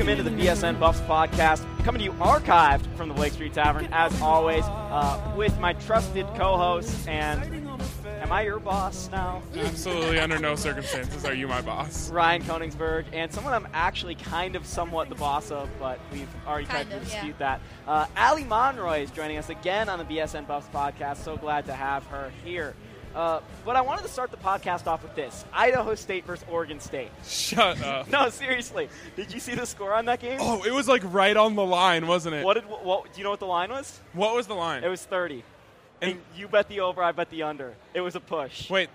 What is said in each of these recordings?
Welcome into the BSN Buffs podcast, coming to you archived from the Lake Street Tavern, as always, with my trusted co-host, and am I your boss now? Absolutely, under no circumstances are you my boss. Ryan Koningsberg, and someone I'm actually kind of somewhat the boss of, but we've already tried to dispute that. Allie Monroy is joining us again on the BSN Buffs podcast. So glad to have her here. But I wanted to start the podcast off with this. Idaho State versus Oregon State. Shut up. No, seriously. Did you see the score on that game? Oh, it was like right on the line, wasn't it? What do you know what the line was? What was the line? It was 30. And you bet the over, I bet the under. It was a push. Wait,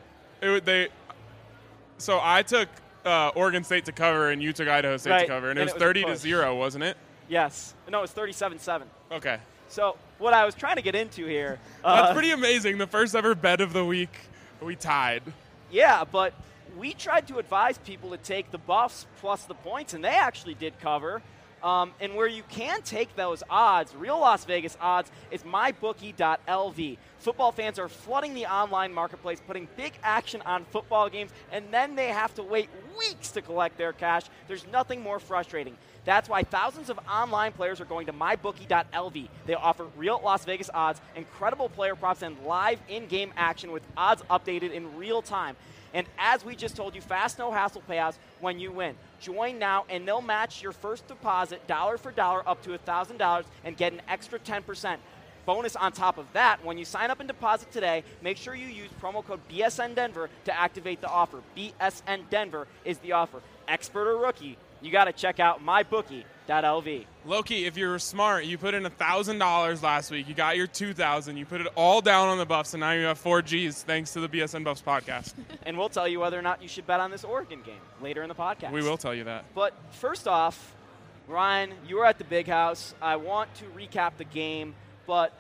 so I took Oregon State to cover and you took Idaho State to cover, and it was 30-0, wasn't it? Yes. No, it was 37-7. Okay. So what I was trying to get into here. That's pretty amazing. The first ever bet of the week, we tied. Yeah, but we tried to advise people to take the Buffs plus the points, and they actually did cover. And where you can take those odds, real Las Vegas odds, is mybookie.lv. Football fans are flooding the online marketplace, putting big action on football games, and then they have to wait weeks to collect their cash. There's nothing more frustrating. That's why thousands of online players are going to mybookie.lv. They offer real Las Vegas odds, incredible player props, and live in-game action with odds updated in real time. And as we just told you, fast, no-hassle payouts when you win. Join now, and they'll match your first deposit dollar for dollar up to $1,000 and get an extra 10%. Bonus on top of that, when you sign up and deposit today, make sure you use promo code BSN Denver to activate the offer. BSN Denver is the offer. Expert or rookie, you got to check out mybookie.lv. Loki, if you're smart, you put in $1,000 last week. You got your $2,000. You put it all down on the Buffs, and now you have 4 Gs thanks to the BSN Buffs podcast. And we'll tell you whether or not you should bet on this Oregon game later in the podcast. We will tell you that. But first off, Ryan, you were at the Big House. I want to recap the game, but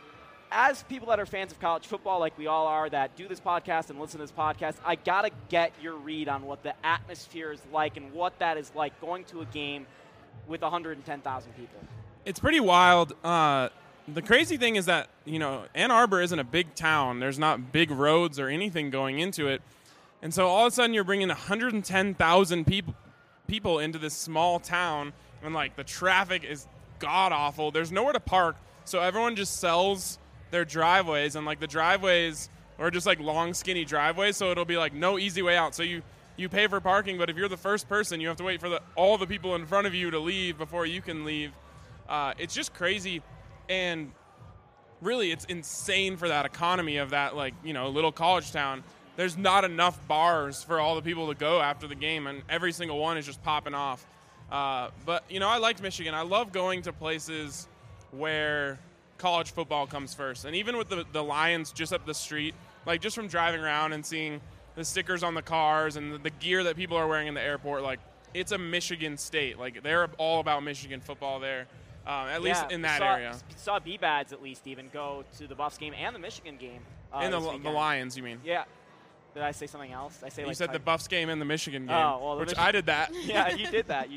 as people that are fans of college football, like we all are, that do this podcast and listen to this podcast, I got to get your read on what the atmosphere is like and what that is like going to a game with 110,000 people. It's pretty wild. The crazy thing is that, Ann Arbor isn't a big town. There's not big roads or anything going into it. And so all of a sudden you're bringing 110,000 people into this small town, and, the traffic is god-awful. There's nowhere to park, so everyone just sells their driveways, and, the driveways are just, long, skinny driveways, so it'll be, no easy way out. So you pay for parking, but if you're the first person, you have to wait for all the people in front of you to leave before you can leave. It's just crazy, and really it's insane for that economy of that, little college town. There's not enough bars for all the people to go after the game, and every single one is just popping off. But, I liked Michigan. I love going to places where college football comes first. And even with the Lions just up the street, just from driving around and seeing the stickers on the cars and the gear that people are wearing in the airport, it's a Michigan state. They're all about Michigan football there, at least in that area. Saw B-Bads at least even go to the Buffs game and the Michigan game. And the Lions, you mean? Yeah. Did I say something else? You said the Buffs game and the Michigan game, I did that. Yeah, you did that.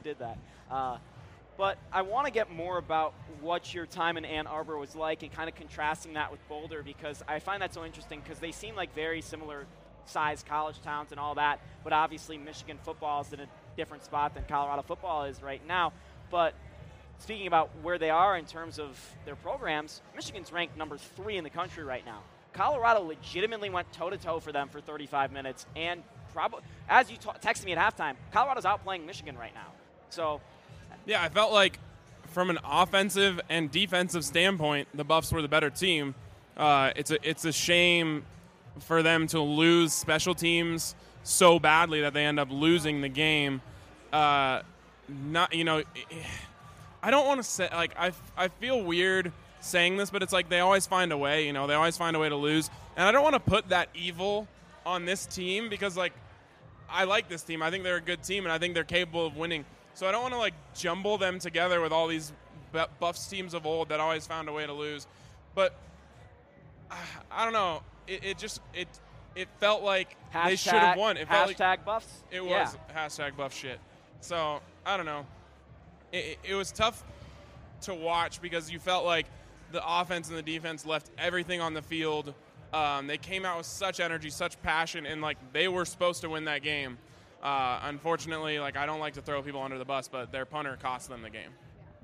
But I want to get more about what your time in Ann Arbor was like and kind of contrasting that with Boulder, because I find that so interesting because they seem like very similar sized college towns and all that, but obviously Michigan football is in a different spot than Colorado football is right now. But speaking about where they are in terms of their programs, Michigan's ranked number 3 in the country right now. Colorado legitimately went toe-to-toe for them for 35 minutes, and probably, as you texted me at halftime, Colorado's outplaying Michigan right now. So, yeah, I felt like from an offensive and defensive standpoint, the Buffs were the better team. It's a shame for them to lose special teams so badly that they end up losing the game. I don't want to say, I feel weird saying this, but it's they always find a way, they always find a way to lose. And I don't want to put that evil on this team because, I like this team. I think they're a good team, and I think they're capable of winning. So I don't want to, jumble them together with all these Buffs teams of old that always found a way to lose. But I don't know. It felt like they should have won. It felt like Buffs? It was hashtag Buff shit. So, I don't know. It was tough to watch because you felt like the offense and the defense left everything on the field. They came out with such energy, such passion, and they were supposed to win that game. Unfortunately, like, I don't like to throw people under the bus, but their punter cost them the game.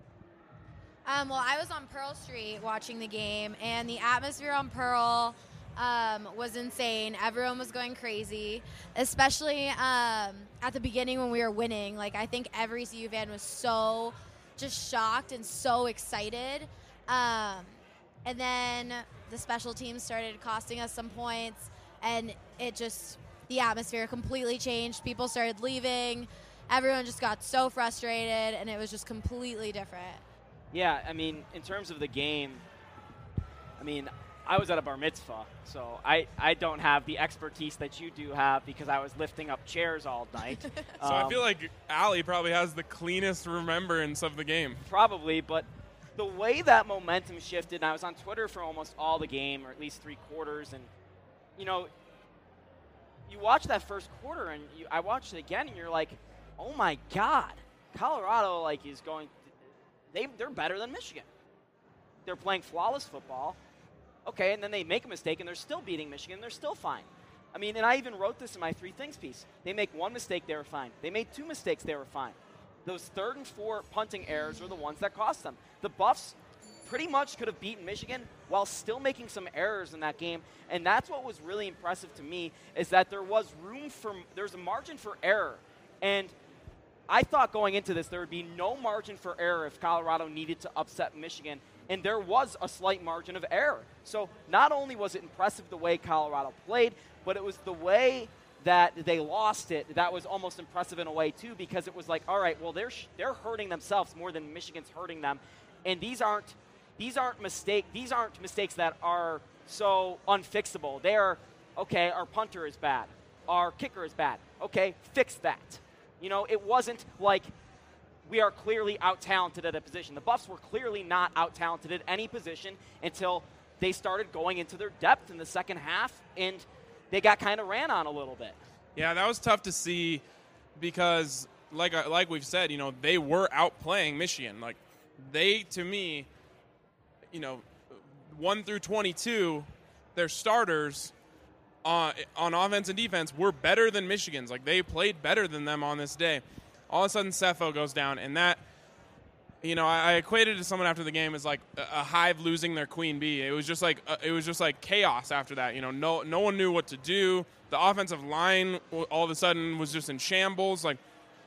Well, I was on Pearl Street watching the game, and the atmosphere on Pearl was insane. Everyone was going crazy, especially at the beginning when we were winning. Like, I think every CU fan was so just shocked and so excited. And then the special teams started costing us some points, and the atmosphere completely changed. People started leaving. Everyone just got so frustrated, and it was just completely different. Yeah, I mean, in terms of the game, I mean, I was at a bar mitzvah, so I don't have the expertise that you do have because I was lifting up chairs all night. So I feel like Allie probably has the cleanest remembrance of the game. Probably, but the way that momentum shifted, and I was on Twitter for almost all the game, or at least 3 quarters, and, you know, you watch that first quarter, and I watched it again, and you're like, oh my God, Colorado, like, is going – they're better than Michigan. They're playing flawless football. Okay, and then they make a mistake, and they're still beating Michigan. They're still fine. I mean, and I even wrote this in my 3 things piece. They make 1 mistake, they were fine. They made 2 mistakes, they were fine. Those 3rd and 4th punting errors were the ones that cost them. The Buffs pretty much could have beaten Michigan while still making some errors in that game, and that's what was really impressive to me is that there's a margin for error, and I thought going into this there would be no margin for error if Colorado needed to upset Michigan, and there was a slight margin of error. So not only was it impressive the way Colorado played, but it was the way that they lost it that was almost impressive in a way too, because it was like, all right, well, they're hurting themselves more than Michigan's hurting them, and these aren't mistakes that are so unfixable. They are, okay, our punter is bad, our kicker is bad. Okay, fix that. You know, it wasn't like we are clearly out-talented at a position. The Buffs were clearly not out-talented at any position until they started going into their depth in the second half, and they got kind of ran on a little bit. Yeah, that was tough to see because, like we've said, you know, they were outplaying Michigan. Like, they, to me, you know, 1 through 22, their starters on offense and defense were better than Michigan's. Like, they played better than them on this day. All of a sudden, Sefo goes down, and that, you know, I equated it to someone after the game as like a hive losing their queen bee. It was just like chaos after that. You know, no one knew what to do. The offensive line all of a sudden was just in shambles. Like,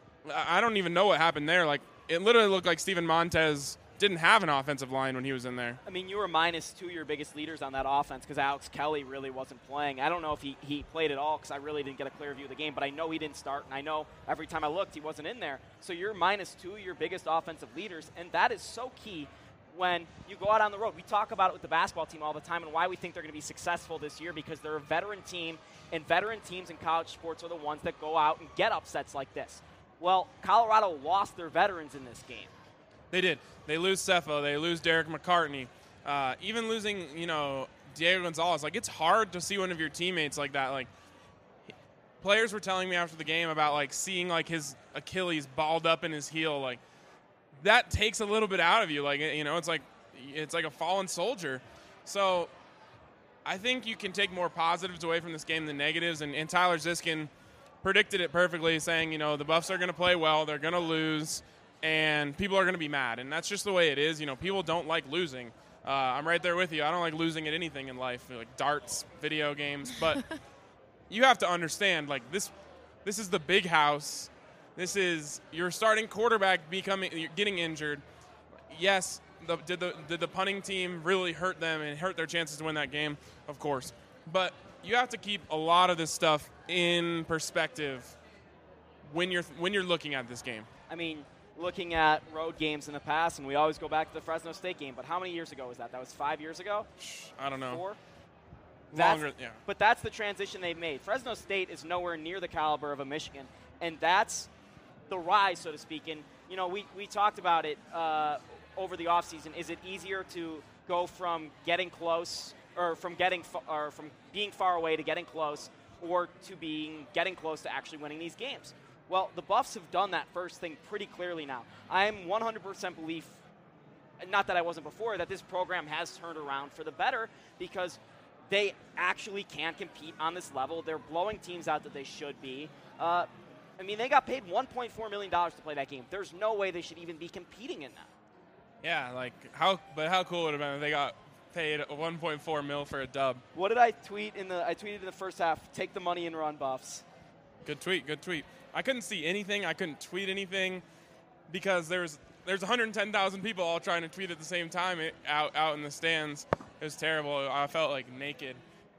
I don't even know what happened there. Like, it literally looked like Steven Montez didn't have an offensive line when he was in there. I mean, you were minus 2 your biggest leaders on that offense because Alex Kelly really wasn't playing. I don't know if he played at all because I really didn't get a clear view of the game, but I know he didn't start, and I know every time I looked he wasn't in there. So you're minus 2 your biggest offensive leaders, and that is so key when you go out on the road. We talk about it with the basketball team all the time and why we think they're going to be successful this year because they're a veteran team, and veteran teams in college sports are the ones that go out and get upsets like this. Well, Colorado lost their veterans in this game. They did. They lose Sefo. They lose Derek McCartney. Even losing, you know, Diego Gonzalez. Like, it's hard to see one of your teammates like that. Like, players were telling me after the game about, like, seeing, like, his Achilles balled up in his heel. Like, that takes a little bit out of you. Like, you know, it's like a fallen soldier. So I think you can take more positives away from this game than negatives. And Tyler Ziskin predicted it perfectly, saying, you know, the Buffs are going to play well. They're going to lose. And people are going to be mad, and that's just the way it is. You know, people don't like losing. I'm right there with you. I don't like losing at anything in life, like darts, video games. But you have to understand, like, this is the big house. This is your starting quarterback getting injured. Yes, did the punting team really hurt them and hurt their chances to win that game? Of course. But you have to keep a lot of this stuff in perspective when you're looking at this game. I mean, looking at road games in the past, and we always go back to the Fresno State game, but how many years ago was that? That was 5 years ago? I don't know. 4? Longer, yeah. But that's the transition they've made. Fresno State is nowhere near the caliber of a Michigan, and that's the rise, so to speak. And, you know, we talked about it over the offseason. Is it easier to go from getting close, or from being far away to getting close, or to getting close to actually winning these games? Well, the Buffs have done that first thing pretty clearly now. I'm 100% belief, not that I wasn't before, that this program has turned around for the better because they actually can compete on this level. They're blowing teams out that they should be. I mean, they got paid $1.4 million to play that game. There's no way they should even be competing in that. Yeah, like how cool would it have been if they got paid $1.4 million for a dub? What did I tweet I tweeted in the first half, take the money and run, Buffs. Good tweet. I couldn't see anything. I couldn't tweet anything because there's 110,000 people all trying to tweet at the same time out in the stands. It was terrible. I felt like naked.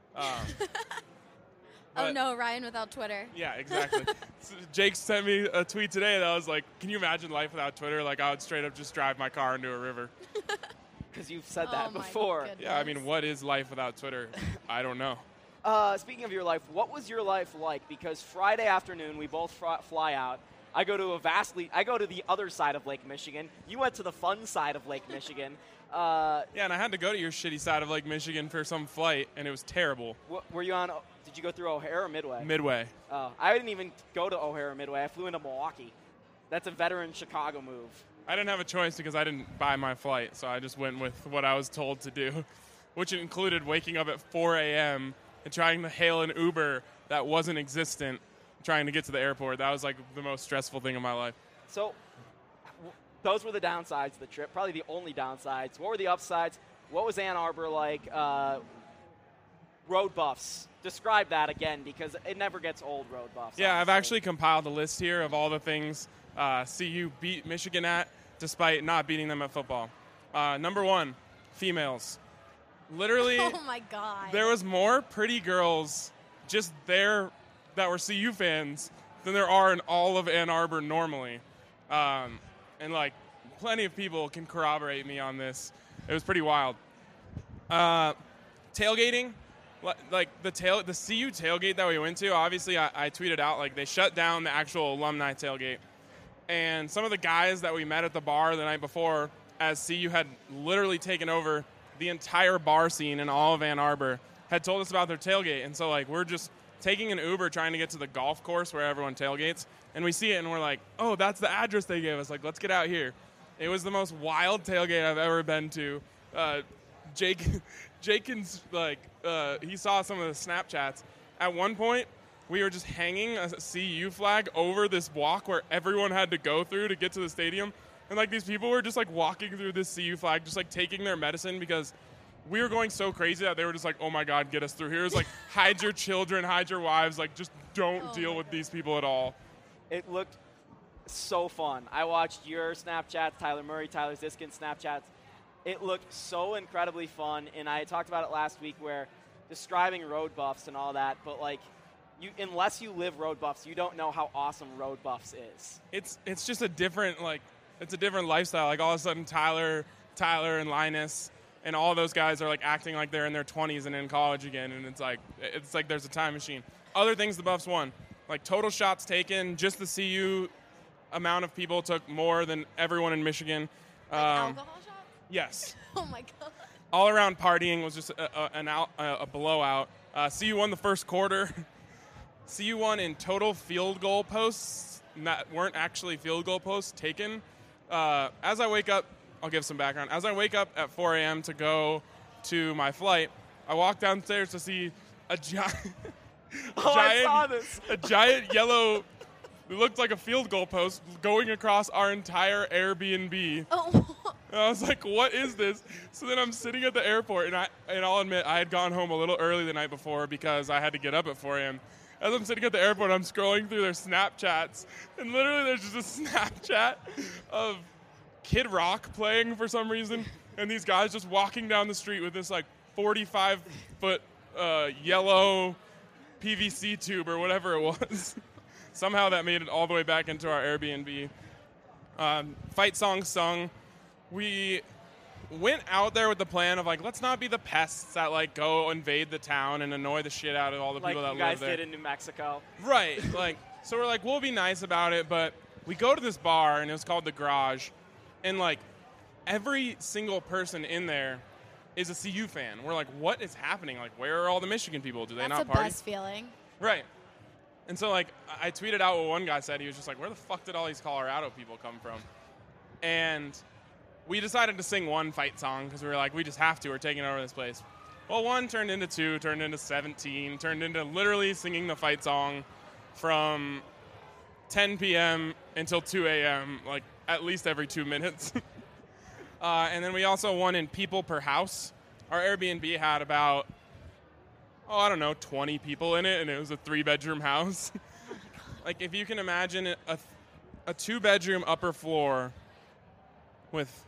Oh no, Ryan without Twitter. Yeah, exactly. So Jake sent me a tweet today that was like, can you imagine life without Twitter? Like, I would straight up just drive my car into a river. Because you've said that Oh my before. goodness. Yeah, I mean, what is life without Twitter? I don't know. Speaking of your life, what was your life like? Because Friday afternoon, we both fly out. I go to the other side of Lake Michigan. You went to the fun side of Lake Michigan. Yeah, and I had to go to your shitty side of Lake Michigan for some flight, and it was terrible. Were you on? Did you go through O'Hare or Midway? Midway. I didn't even go to O'Hare or Midway. I flew into Milwaukee. That's a veteran Chicago move. I didn't have a choice because I didn't buy my flight, so I just went with what I was told to do, which included waking up at 4 a.m. and trying to hail an Uber that wasn't existent, trying to get to the airport. That was like the most stressful thing in my life. So those were the downsides of the trip, probably the only downsides. What were the upsides? What was Ann Arbor like? Road Buffs. Describe that again, because it never gets old, Road Buffs. Yeah, I've honestly. actually compiled a list here of all the things CU beat Michigan at, despite not beating them at football. Number one, females. Literally, Oh my God. there was more pretty girls just there that were CU fans than there are in all of Ann Arbor normally. And, like, plenty of people can corroborate me on this. It was pretty wild. Tailgating, like the CU tailgate that we went to, obviously I tweeted out, like, they shut down the actual alumni tailgate. And some of the guys that we met at the bar the night before, as CU had literally taken over the entire bar scene in all of Ann Arbor, had told us about their tailgate. And so, like, we're just taking an Uber trying to get to the golf course where everyone tailgates. And we see it, and we're like, oh, that's the address they gave us. Like, let's get out here. It was the most wild tailgate I've ever been to. Jenkins, like, he saw some of the Snapchats. At one point, we were just hanging a CU flag over this walk where everyone had to go through to get to the stadium. And, like, these people were just, like, walking through this CU flag, just, like, taking their medicine because we were going so crazy that they were just like, oh, my God, get us through here. It was like, hide your children, hide your wives. Like, just don't deal with these people at all. It looked so fun. I watched your Snapchats, Tyler Murray, Tyler Ziskin Snapchats. It looked so incredibly fun, and I talked about it last week where describing Road Buffs and all that, but, like, unless you live Road Buffs, you don't know how awesome Road Buffs is. It's just a different, like, it's a different lifestyle. Like, all of a sudden, Tyler and Linus and all those guys are, like, acting like they're in their 20s and in college again, and it's like there's a time machine. Other things the Buffs won, like total shots taken, just the CU amount of people took more than everyone in Michigan. Like alcohol shots? Yes. Oh my God. All around partying was just a blowout. CU won the first quarter. CU won in total field goal posts that weren't actually field goal posts taken. As I wake up, I'll give some background. As I wake up at 4 a.m. to go to my flight, I walk downstairs to see a giant, I saw this. a giant yellow, it looked like a field goal post going across our entire Airbnb. Oh. And I was like, what is this? So then I'm sitting at the airport, and I'll admit, I had gone home a little early the night before because I had to get up at 4 a.m. As I'm sitting at the airport, I'm scrolling through their Snapchats, and literally there's just a Snapchat of Kid Rock playing for some reason, and these guys just walking down the street with this, like, 45-foot yellow PVC tube or whatever it was. Somehow that made it all the way back into our Airbnb. Fight song sung. We went out there with the plan of, like, let's not be the pests that, like, go invade the town and annoy the shit out of all the people that live there. Like you guys did in New Mexico. Right. Like, so we're like, we'll be nice about it, but we go to this bar, and it was called The Garage, and, like, every single person in there is a CU fan. We're like, what is happening? Like, where are all the Michigan people? Do they That's not the party? best feeling. Right. And so, like, I tweeted out what one guy said. He was just like, where the fuck did all these Colorado people come from? And we decided to sing one fight song because we were like, we just have to. We're taking over this place. Well, one turned into 2, turned into 17, turned into literally singing the fight song from 10 p.m. until 2 a.m., like at least every 2 minutes. And then we also won in people per house. Our Airbnb had about, 20 people in it, and it was a 3-bedroom house. Like, if you can imagine a 2-bedroom upper floor with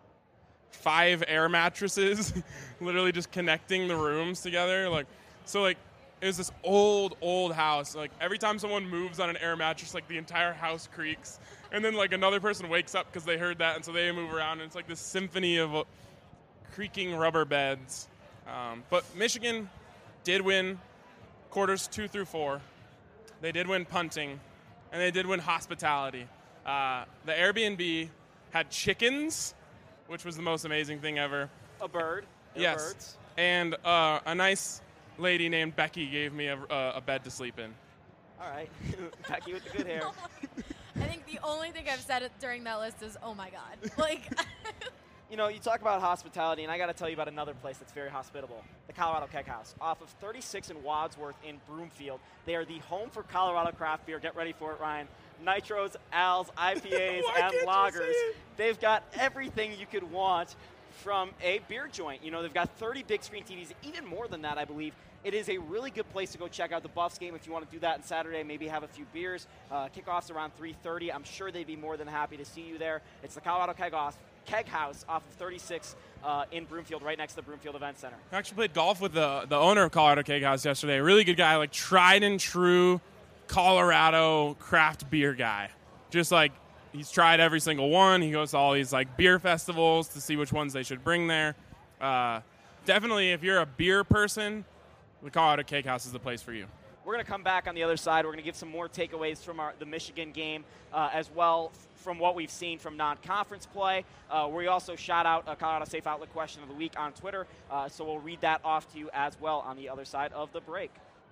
5 air mattresses, literally just connecting the rooms together. Like, so like, it was this old house. Like, every time someone moves on an air mattress, like, the entire house creaks. And then, like, another person wakes up because they heard that, and so they move around, and it's like this symphony of creaking rubber beds. But Michigan did win quarters 2 through 4. They did win punting, and they did win hospitality. The Airbnb had chickens, which was the most amazing thing ever. A bird. Yes. Birds. And a nice lady named Becky gave me a bed to sleep in. All right. Becky with the good hair. I think the only thing I've said during that list is, oh my God. Like, You know, you talk about hospitality, and I got to tell you about another place that's very hospitable, the Colorado Keg House. Off of 36 and Wadsworth in Broomfield. They are the home for Colorado craft beer. Get ready for it, Ryan. Nitros, Als, IPAs, and lagers. They've got everything you could want from a beer joint. You know, they've got 30 big screen TVs, even more than that, I believe. It is a really good place to go check out the Buffs game if you want to do that on Saturday, maybe have a few beers. Kickoff's around 3:30. I'm sure they'd be more than happy to see you there. It's the Colorado Keg House off of 36 in Broomfield, right next to the Broomfield Event Center. I actually played golf with the owner of Colorado Keg House yesterday. A really good guy, like tried and true Colorado craft beer guy. Just like he's tried every single one. He goes to all these like beer festivals to see which ones they should bring there. Definitely, if you're a beer person, the Colorado Keg House is the place for you. We're going to come back on the other side. We're going to give some more takeaways from the Michigan game as well from what we've seen from non-conference play. We also shout out a Colorado Safe Outlet question of the week on Twitter, so we'll read that off to you as well on the other side of the break.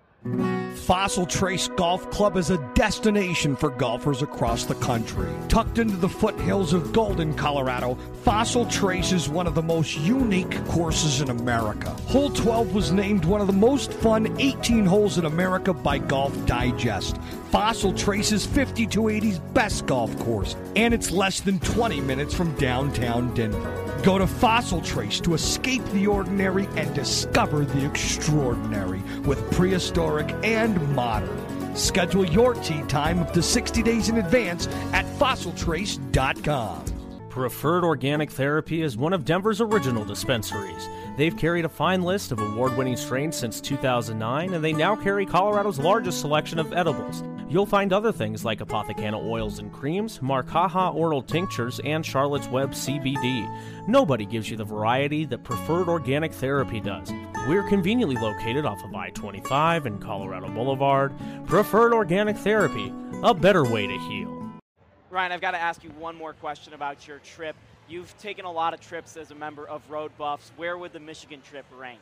Fossil Trace Golf Club is a destination for golfers across the country. Tucked into the foothills of Golden, Colorado, Fossil Trace is one of the most unique courses in America. Hole 12 was named one of the most fun 18 holes in America by Golf Digest. Fossil Trace is 5280's best golf course, and it's less than 20 minutes from downtown Denver. Go to Fossil Trace to escape the ordinary and discover the extraordinary with prehistoric and modern. Schedule your tee time up to 60 days in advance at fossiltrace.com. Preferred Organic Therapy is one of Denver's original dispensaries. They've carried a fine list of award-winning strains since 2009, and they now carry Colorado's largest selection of edibles. You'll find other things like Apothecana oils and creams, Marcaja oral tinctures, and Charlotte's Web CBD. Nobody gives you the variety that Preferred Organic Therapy does. We're conveniently located off of I-25 and Colorado Boulevard. Preferred Organic Therapy, a better way to heal. Ryan, I've got to ask you one more question about your trip. You've taken a lot of trips as a member of Road Buffs. Where would the Michigan trip rank?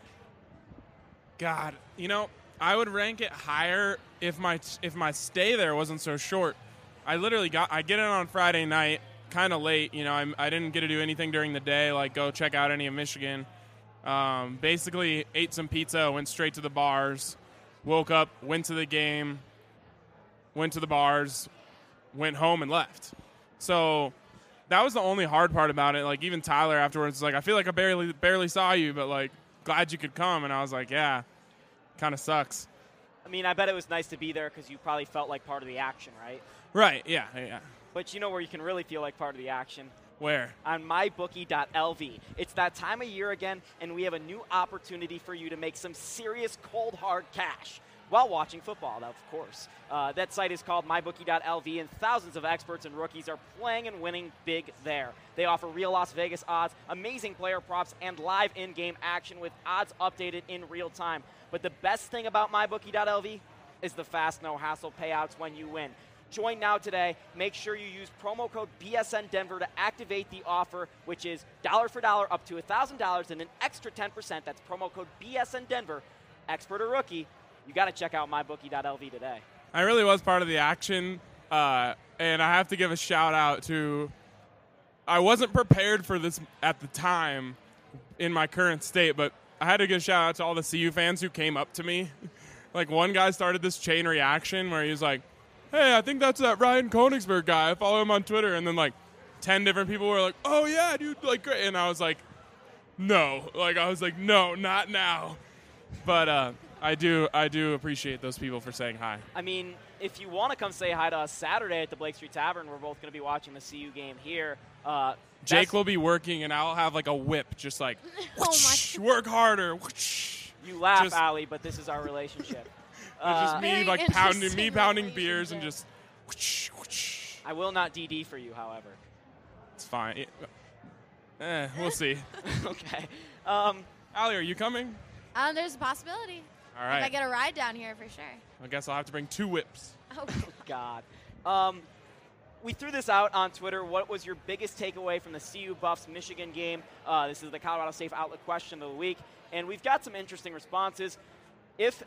God, you know, I would rank it higher if my stay there wasn't so short. I get in on Friday night, kind of late. You know, I didn't get to do anything during the day, like go check out any of Michigan. Basically ate some pizza, went straight to the bars, woke up, went to the game, went to the bars, went home and left. So that was the only hard part about it. Like, even Tyler afterwards was like, I feel like I barely saw you, but like, glad you could come. And I was like, yeah, kind of sucks. I mean, I bet it was nice to be there because you probably felt like part of the action, right? Right, yeah. But you know where you can really feel like part of the action? Where? On mybookie.lv. It's that time of year again, and we have a new opportunity for you to make some serious cold, hard cash while watching football, of course. That site is called mybookie.lv, and thousands of experts and rookies are playing and winning big there. They offer real Las Vegas odds, amazing player props, and live in-game action with odds updated in real time. But the best thing about mybookie.lv is the fast, no-hassle payouts when you win. Join now today. Make sure you use promo code BSNDenver to activate the offer, which is dollar for dollar up to $1,000 and an extra 10%. That's promo code BSNDenver. Expert or rookie, you got to check out mybookie.lv today. I really was part of the action, and I have to give a shout-out to – I wasn't prepared for this at the time in my current state, but I had to give a shout-out to all the CU fans who came up to me. Like, one guy started this chain reaction where he was like, hey, I think that's that Ryan Koenigsberg guy. I follow him on Twitter. And then, like, 10 different people were like, oh, yeah, dude, like, great. And I was like, no. Like, I was like, no, not now. But I do appreciate those people for saying hi. I mean, if you want to come say hi to us Saturday at the Blake Street Tavern, we're both going to be watching the CU game here. Jake will be working, and I'll have, like, a whip, just like, whoosh, work harder. Whoosh. You laugh, Allie, but this is our relationship. It's just me, like, pounding beers and just whoosh, whoosh. I will not DD for you, however. It's fine. We'll see. Okay. Allie, are you coming? There's a possibility. All right. If I get a ride down here, for sure. I guess I'll have to bring 2 whips. Oh, God. We threw this out on Twitter. What was your biggest takeaway from the CU Buffs Michigan game? This is the Colorado Safe Outlet question of the week, and we've got some interesting responses. If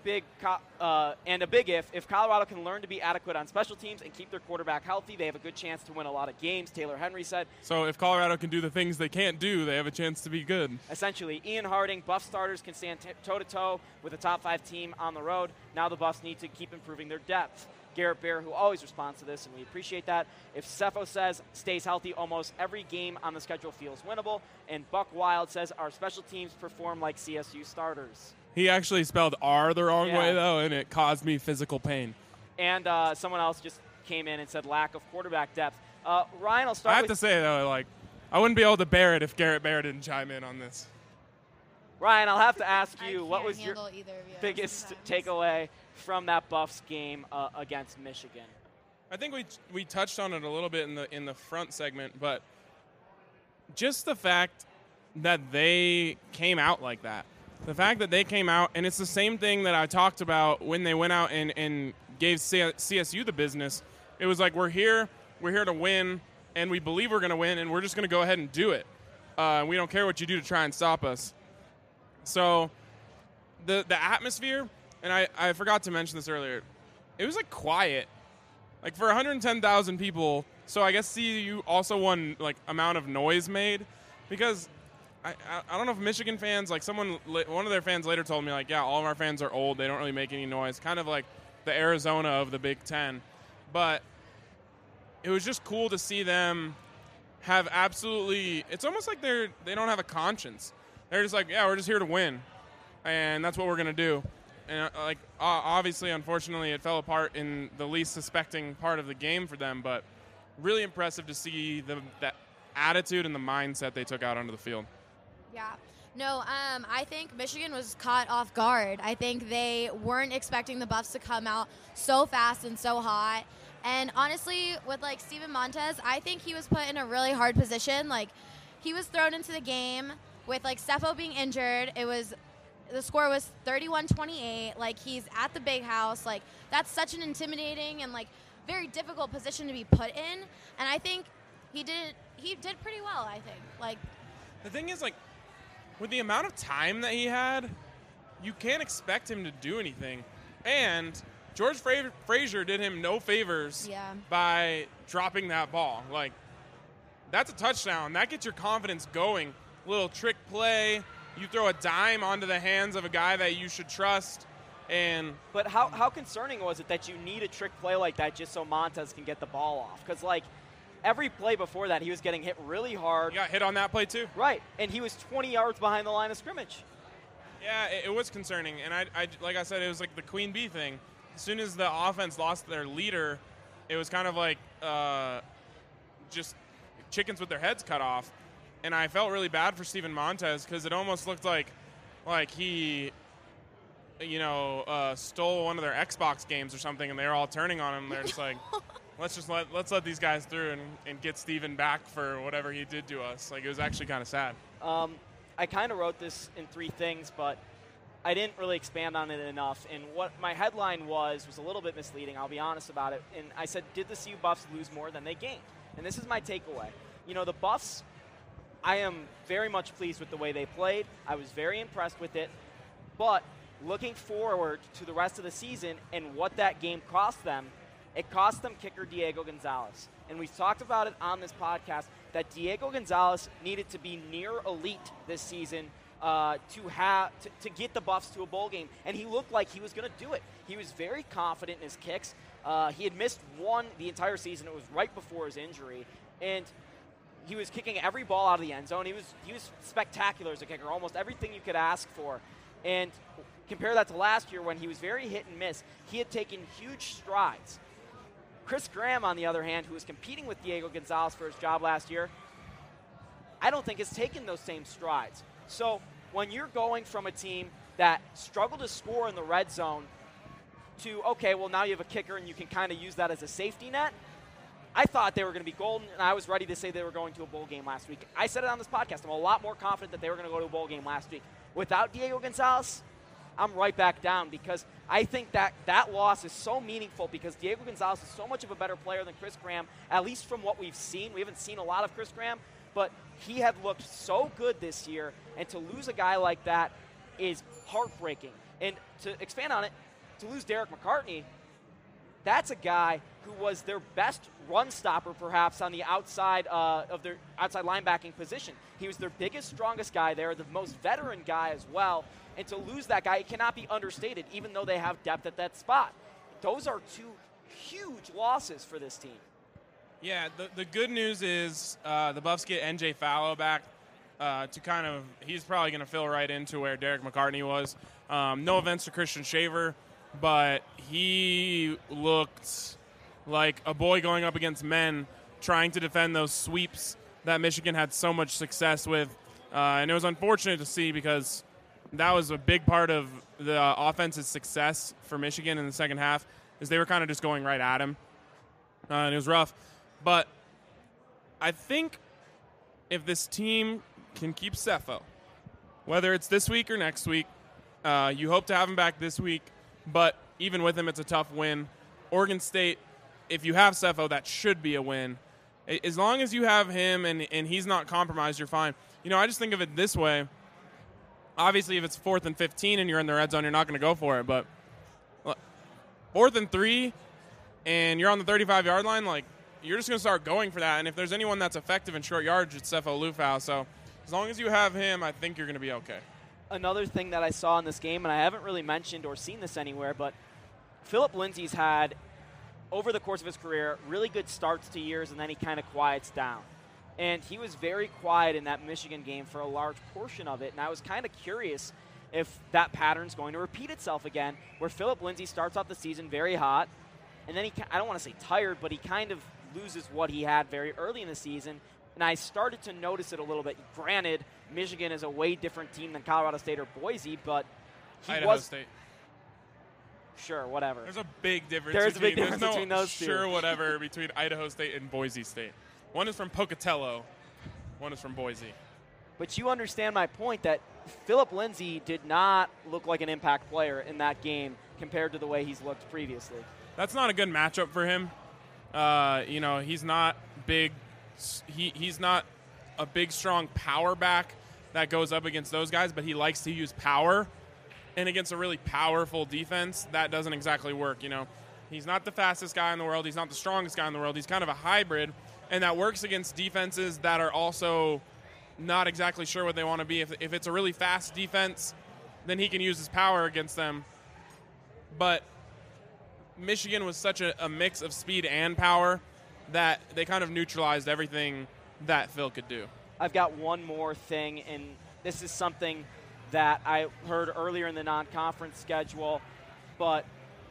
Colorado can learn to be adequate on special teams and keep their quarterback healthy, they have a good chance to win a lot of games, Taylor Henry said. So if Colorado can do the things they can't do, they have a chance to be good. Essentially, Ian Harding, Buff starters can stand toe-to-toe with a top-5 team on the road. Now the Buffs need to keep improving their depth. Garrett Bear, who always responds to this, and we appreciate that. If Cepho says stays healthy, almost every game on the schedule feels winnable. And Buck Wild says our special teams perform like CSU starters. He actually spelled R the wrong way, though, and it caused me physical pain. And someone else just came in and said lack of quarterback depth. Ryan, I'll start with... I have to say, though, like, I wouldn't be able to bear it if Garrett Bear didn't chime in on this. Ryan, I'll have to ask you, what was your you biggest takeaway from that Buffs game against Michigan? I think we touched on it a little bit in the front segment, but just the fact that they came out like that. The fact that they came out, and it's the same thing that I talked about when they went out and gave CSU the business. It was like, we're here to win, and we believe we're going to win, and we're just going to go ahead and do it. We don't care what you do to try and stop us. So the atmosphere, and I forgot to mention this earlier, it was like quiet. Like for 110,000 people, so I guess CU also won like amount of noise made, because I don't know if Michigan fans, like one of their fans later told me, like, yeah, all of our fans are old, they don't really make any noise, kind of like the Arizona of the Big Ten. But it was just cool to see them have absolutely, it's almost like they don't have a conscience. They're just like, yeah, we're just here to win, and that's what we're going to do. And obviously, unfortunately, it fell apart in the least suspecting part of the game for them, but really impressive to see that attitude and the mindset they took out onto the field. Yeah. No, I think Michigan was caught off guard. I think they weren't expecting the Buffs to come out so fast and so hot. And honestly, with like Steven Montez, I think he was put in a really hard position. Like, he was thrown into the game with like Cepho being injured. The score was 31-28. Like, he's at the big house. Like, that's such an intimidating and like very difficult position to be put in. And I think he did pretty well, I think. Like, the thing is, like, with the amount of time that he had, you can't expect him to do anything. And George Frazier did him no favors by dropping that ball. Like, that's a touchdown. That gets your confidence going. Little trick play. You throw a dime onto the hands of a guy that you should trust. But how concerning was it that you need a trick play like that just so Montez can get the ball off? Because, like, every play before that, he was getting hit really hard. He got hit on that play, too. Right, and he was 20 yards behind the line of scrimmage. Yeah, it was concerning. And, I like I said, it was like the Queen Bee thing. As soon as the offense lost their leader, it was kind of like just chickens with their heads cut off. And I felt really bad for Steven Montez because it almost looked like he, stole one of their Xbox games or something, and they were all turning on him. They're just like, let's let these guys through and get Steven back for whatever he did to us. Like, it was actually kind of sad. I kind of wrote this in 3 things, but I didn't really expand on it enough. And what my headline was a little bit misleading. I'll be honest about it. And I said, did the CU Buffs lose more than they gained? And this is my takeaway. The Buffs, I am very much pleased with the way they played. I was very impressed with it. But looking forward to the rest of the season and what that game cost them, it cost them kicker Diego Gonzalez. And we've talked about it on this podcast that Diego Gonzalez needed to be near elite this season to get the Buffs to a bowl game. And he looked like he was going to do it. He was very confident in his kicks. He had missed the entire season. It was right before his injury, and he was kicking every ball out of the end zone. He was spectacular as a kicker, almost everything you could ask for. And compare that to last year when he was very hit and miss. He had taken huge strides. Chris Graham, on the other hand, who was competing with Diego Gonzalez for his job last year, I don't think has taken those same strides. So when you're going from a team that struggled to score in the red zone to, okay, well, now you have a kicker and you can kind of use that as a safety net, I thought they were going to be golden, and I was ready to say they were going to a bowl game last week. I said it on this podcast. I'm a lot more confident that they were going to go to a bowl game last week. Without Diego Gonzalez, I'm right back down because I think that loss is so meaningful because Diego Gonzalez is so much of a better player than Chris Graham, at least from what we've seen. We haven't seen a lot of Chris Graham, but he had looked so good this year, and to lose a guy like that is heartbreaking. And to expand on it, to lose Derek McCartney, that's a guy who was their best run stopper, perhaps, on the outside of their outside linebacking position. He was their biggest, strongest guy there, the most veteran guy as well. And to lose that guy, it cannot be understated, even though they have depth at that spot. Those are two huge losses for this team. Yeah, the good news is the Buffs get NJ Fallow back to kind of – he's probably going to fill right into where Derek McCartney was. No offense to Christian Shaver, but he looked like a boy going up against men trying to defend those sweeps that Michigan had so much success with. And it was unfortunate to see because that was a big part of the offense's success for Michigan in the second half is they were kind of just going right at him. And it was rough. But I think if this team can keep Sefo, whether it's this week or next week, you hope to have him back this week, but even with him, it's a tough win. Oregon State, if you have Sefo, that should be a win. As long as you have him and he's not compromised, you're fine. You know, I just think of it this way. Obviously, if it's 4th and 15 and you're in the red zone, you're not going to go for it. But 4th and 3 and you're on the 35-yard line, like, you're just going to start going for that. And if there's anyone that's effective in short yardage, it's Sefo Liufau. So as long as you have him, I think you're going to be okay. Another thing that I saw in this game, and I haven't really mentioned or seen this anywhere, but Philip Lindsay's had, over the course of his career, really good starts to years, and then he kind of quiets down. And he was very quiet in that Michigan game for a large portion of it, and I was kind of curious if that pattern's going to repeat itself again, where Philip Lindsay starts off the season very hot, and then I don't want to say tired, but he kind of loses what he had very early in the season, and I started to notice it a little bit. Granted, Michigan is a way different team than Colorado State or Boise, but Idaho State. Sure, whatever. There's a big difference. There's a big difference no between those two. Sure, whatever between Idaho State and Boise State. One is from Pocatello. One is from Boise. But you understand my point that Philip Lindsay did not look like an impact player in that game compared to the way he's looked previously. That's not a good matchup for him. You know, he's not big. He's not a big, strong power back that goes up against those guys, but he likes to use power. And against a really powerful defense, that doesn't exactly work, you know. He's not the fastest guy in the world. He's not the strongest guy in the world. He's kind of a hybrid, and that works against defenses that are also not exactly sure what they want to be. If it's a really fast defense, then he can use his power against them. But Michigan was such a mix of speed and power that they kind of neutralized everything that Phil could do. I've got one more thing, and this is something that I heard earlier in the non-conference schedule, but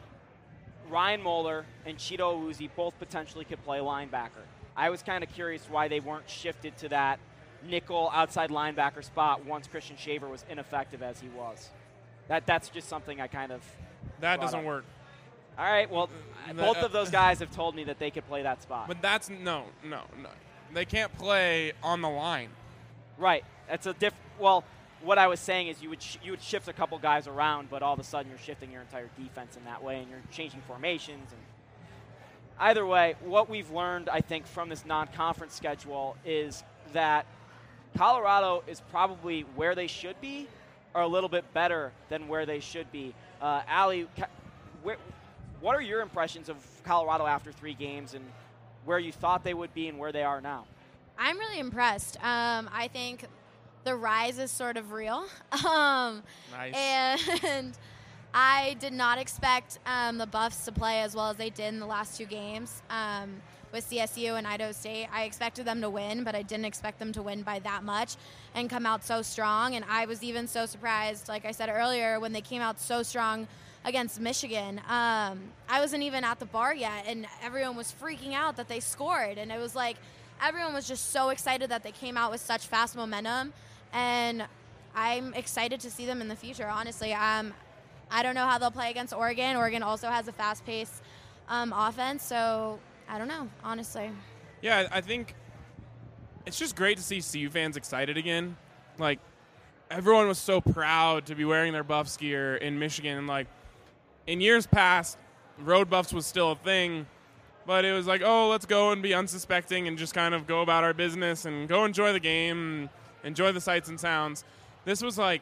Ryan Moeller and Cheeto Awuzie both potentially could play linebacker. I was kind of curious why they weren't shifted to that nickel outside linebacker spot once Christian Shaver was ineffective as he was. That's just something I kind of That doesn't work. All right, well, both of those guys have told me that they could play that spot. But that's no. They can't play on the line. Right. That's a well, what I was saying is you would shift a couple guys around, but all of a sudden you're shifting your entire defense in that way, and you're changing formations. And either way, what we've learned, I think, from this non-conference schedule is that Colorado is probably where they should be, or a little bit better than where they should be. Allie, what are your impressions of Colorado after 3 games, and where you thought they would be and where they are now? I'm really impressed. I think the rise is sort of real. Nice. And I did not expect the Buffs to play as well as they did in the last 2 games with CSU and Idaho State. I expected them to win, but I didn't expect them to win by that much and come out so strong. And I was even so surprised, like I said earlier, when they came out so strong against Michigan. I wasn't even at the bar yet, and everyone was freaking out that they scored. And it was like everyone was just so excited that they came out with such fast momentum. And I'm excited to see them in the future, honestly. I don't know how they'll play against Oregon. Oregon also has a fast-paced offense, so I don't know, honestly. Yeah, I think it's just great to see CU fans excited again. Like, everyone was so proud to be wearing their Buffs gear in Michigan. Like, in years past, road Buffs was still a thing, but it was like, oh, let's go and be unsuspecting and just kind of go about our business and go enjoy the game and enjoy the sights and sounds. This was like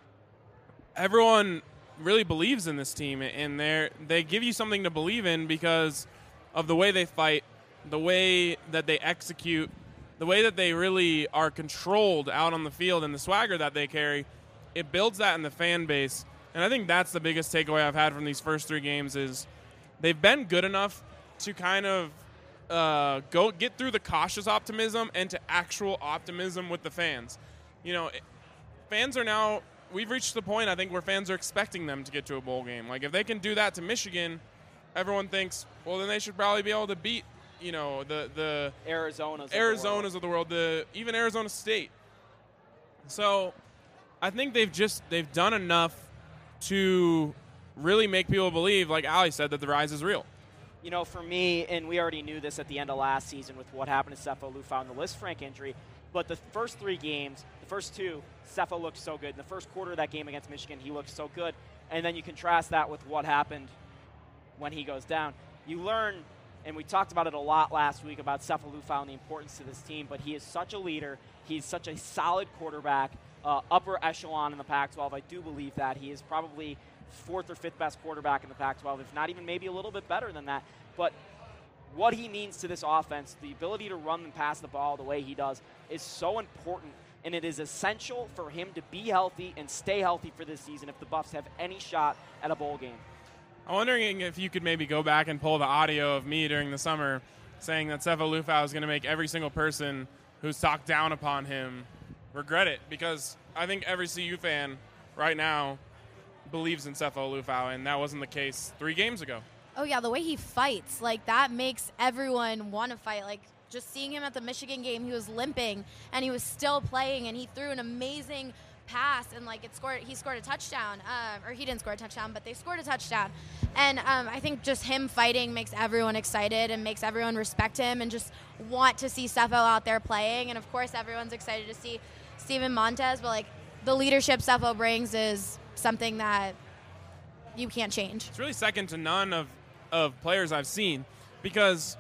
everyone really believes in this team, and they give you something to believe in because of the way they fight, the way that they execute, the way that they really are controlled out on the field, and the swagger that they carry. It builds that in the fan base, and I think that's the biggest takeaway I've had from these first 3 games is they've been good enough to kind of go get through the cautious optimism and to actual optimism with the fans. You know, fans are now – we've reached the point, I think, where fans are expecting them to get to a bowl game. Like, if they can do that to Michigan, everyone thinks, well, then they should probably be able to beat, you know, the Arizonas of the world, even Arizona State. So I think they've done enough to really make people believe, like Ali said, that the rise is real. You know, for me, and we already knew this at the end of last season with what happened to Sefo Liufau and the Lisfranc injury, but the first 3 games, the first 2, Sefo looked so good. In the first quarter of that game against Michigan, he looked so good. And then you contrast that with what happened when he goes down. You learn, and we talked about it a lot last week about Sefo Liufau and the importance to this team, but he is such a leader. He's such a solid quarterback, upper echelon in the Pac-12. I do believe that. He is probably 4th or 5th best quarterback in the Pac-12, if not even maybe a little bit better than that. But what he means to this offense, the ability to run and pass the ball the way he does, is so important, and it is essential for him to be healthy and stay healthy for this season if the Buffs have any shot at a bowl game. I'm wondering if you could maybe go back and pull the audio of me during the summer saying that Sefo Liufau is going to make every single person who's talked down upon him regret it, because I think every CU fan right now believes in Sefo Liufau, and that wasn't the case 3 games ago. Oh, yeah, the way he fights, like, that makes everyone want to fight. Like, just seeing him at the Michigan game, he was limping, and he was still playing, and he threw an amazing pass, and, like, he scored a touchdown. Or he didn't score a touchdown, but they scored a touchdown. And I think just him fighting makes everyone excited and makes everyone respect him and just want to see Sefo out there playing. And, of course, everyone's excited to see Steven Montez, but, like, the leadership Sefo brings is something that you can't change. It's really second to none of players I've seen, because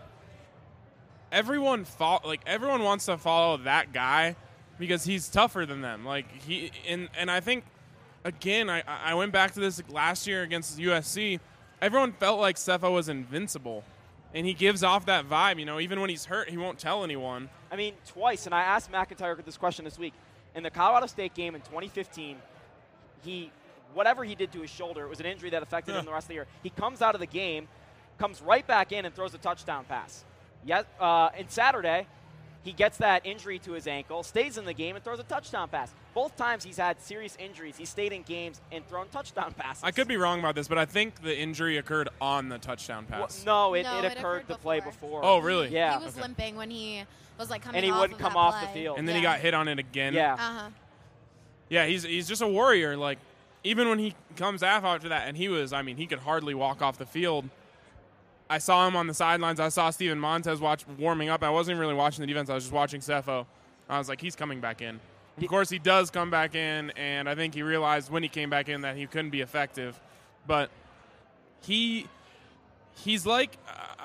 everyone wants to follow that guy because he's tougher than them. Like, and I think, again, I went back to this last year against USC. Everyone felt like Sefo was invincible, and he gives off that vibe. You know, even when he's hurt, he won't tell anyone. I mean, twice, and I asked McIntyre this question this week. In the Colorado State game in 2015, whatever he did to his shoulder, it was an injury that affected him the rest of the year. He comes out of the game, comes right back in and throws a touchdown pass. And Saturday, he gets that injury to his ankle, stays in the game, and throws a touchdown pass. Both times he's had serious injuries. He's stayed in games and thrown touchdown passes. I could be wrong about this, but I think the injury occurred on the touchdown pass. Well, it occurred the play before. Oh, really? Yeah. He was limping when he was, like, coming off. And he wouldn't come off the field. And then he got hit on it again. Yeah. Uh-huh. Yeah, he's just a warrior. Like, even when he comes after that, and he could hardly walk off the field. I saw him on the sidelines. I saw Steven Montez warming up. I wasn't even really watching the defense. I was just watching Sefo. I was like, he's coming back in. Of course, he does come back in, and I think he realized when he came back in that he couldn't be effective. But he's like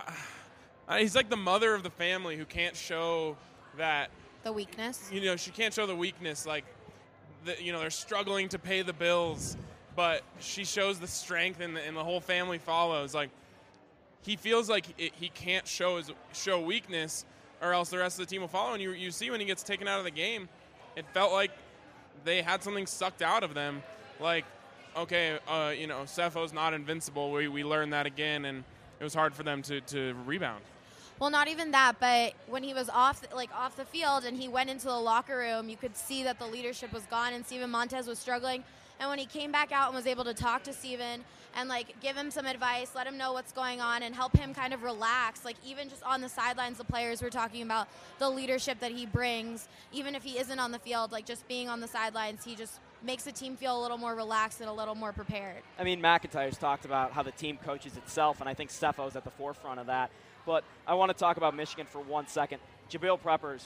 the mother of the family who can't show that the weakness. You know, she can't show the weakness. Like, they're struggling to pay the bills, but she shows the strength, and the whole family follows. Like, he feels like he can't show weakness, or else the rest of the team will follow. And you see when he gets taken out of the game, it felt like they had something sucked out of them. Like, okay, Cepho's not invincible. We learned that again, and it was hard for them to rebound. Well, not even that, but when he was off the field and he went into the locker room, you could see that the leadership was gone and Steven Montez was struggling. And when he came back out and was able to talk to Steven and, give him some advice, let him know what's going on, and help him kind of relax, even just on the sidelines, the players were talking about the leadership that he brings. Even if he isn't on the field, just being on the sidelines, he just makes the team feel a little more relaxed and a little more prepared. I mean, McIntyre's talked about how the team coaches itself, and I think Cepho's at the forefront of that. But I want to talk about Michigan for 1 second. Jabril Peppers,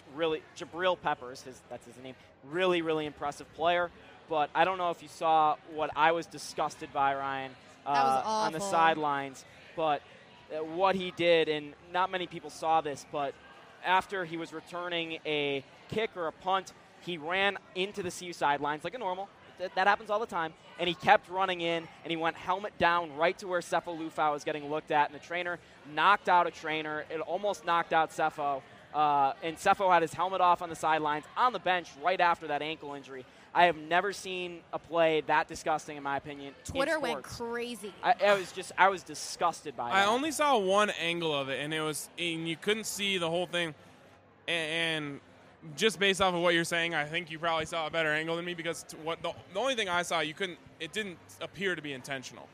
that's his name, really, really impressive player. But I don't know if you saw what I was disgusted by, Ryan, on the sidelines. But what he did, and not many people saw this, but after he was returning a kick or a punt, he ran into the CU sidelines like a normal. That happens all the time. And he kept running in, and he went helmet down right to where Cepho Lufau was getting looked at. And the trainer knocked out a trainer. It almost knocked out Cepho. And Cepho had his helmet off on the sidelines, on the bench right after that ankle injury. I have never seen a play that disgusting, in my opinion. Twitter went crazy. I was disgusted by that. I only saw one angle of it, and you couldn't see the whole thing. And just based off of what you're saying, I think you probably saw a better angle than me, because the only thing I saw, it didn't appear to be intentional.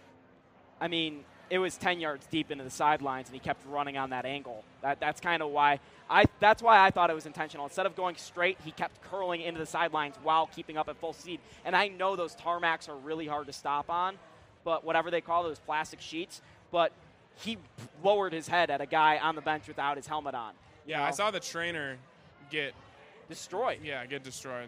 I mean, it was 10 yards deep into the sidelines, and he kept running on that angle. That's kind of why that's why I thought it was intentional. Instead of going straight, he kept curling into the sidelines while keeping up at full speed. And I know those tarmacs are really hard to stop on, but whatever they call those plastic sheets. But he lowered his head at a guy on the bench without his helmet on. Yeah, I saw the trainer get destroyed. Yeah, get destroyed.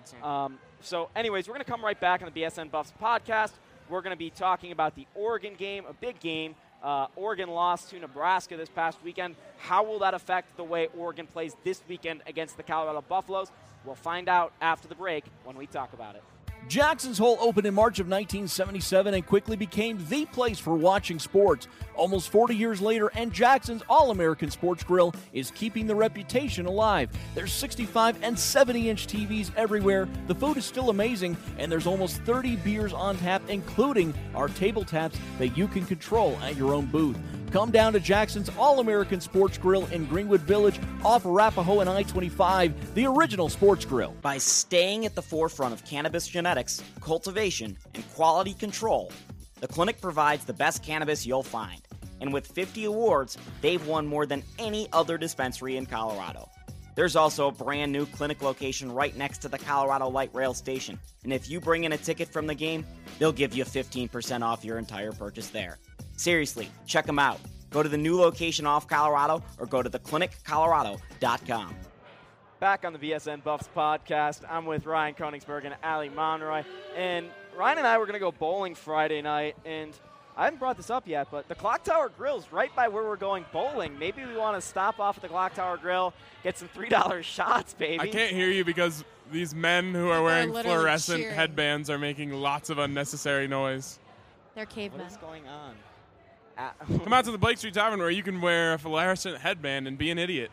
So anyways, we're going to come right back on the BSN Buffs podcast. We're going to be talking about the Oregon game, a big game. Oregon lost to Nebraska this past weekend. How will that affect the way Oregon plays this weekend against the Colorado Buffaloes? We'll find out after the break when we talk about it. Jackson's Hole opened in March of 1977 and quickly became the place for watching sports. Almost 40 years later, and Jackson's All-American Sports Grill is keeping the reputation alive. There's 65 and 70-inch TVs everywhere, the food is still amazing, and there's almost 30 beers on tap, including our table taps that you can control at your own booth. Come down to Jackson's All-American Sports Grill in Greenwood Village off Arapahoe and I-25, the original sports grill. By staying at the forefront of cannabis genetics, cultivation, and quality control, the clinic provides the best cannabis you'll find. And with 50 awards, they've won more than any other dispensary in Colorado. There's also a brand new clinic location right next to the Colorado Light Rail station. And if you bring in a ticket from the game, they'll give you 15% off your entire purchase there. Seriously, check them out. Go to the new location off Colorado or go to thecliniccolorado.com. Back on the BSN Buffs podcast, I'm with Ryan Koenigsberg and Ali Monroy. And Ryan and I were going to go bowling Friday night, and I haven't brought this up yet, but the Clock Tower Grill's right by where we're going bowling. Maybe we want to stop off at the Clock Tower Grill, get some $3 shots, baby. I can't hear you because these men who are wearing fluorescent cheering. Headbands are making lots of unnecessary noise. They're cavemen. What is going on? Come out to the Blake Street Tavern where you can wear a fluorescent headband and be an idiot.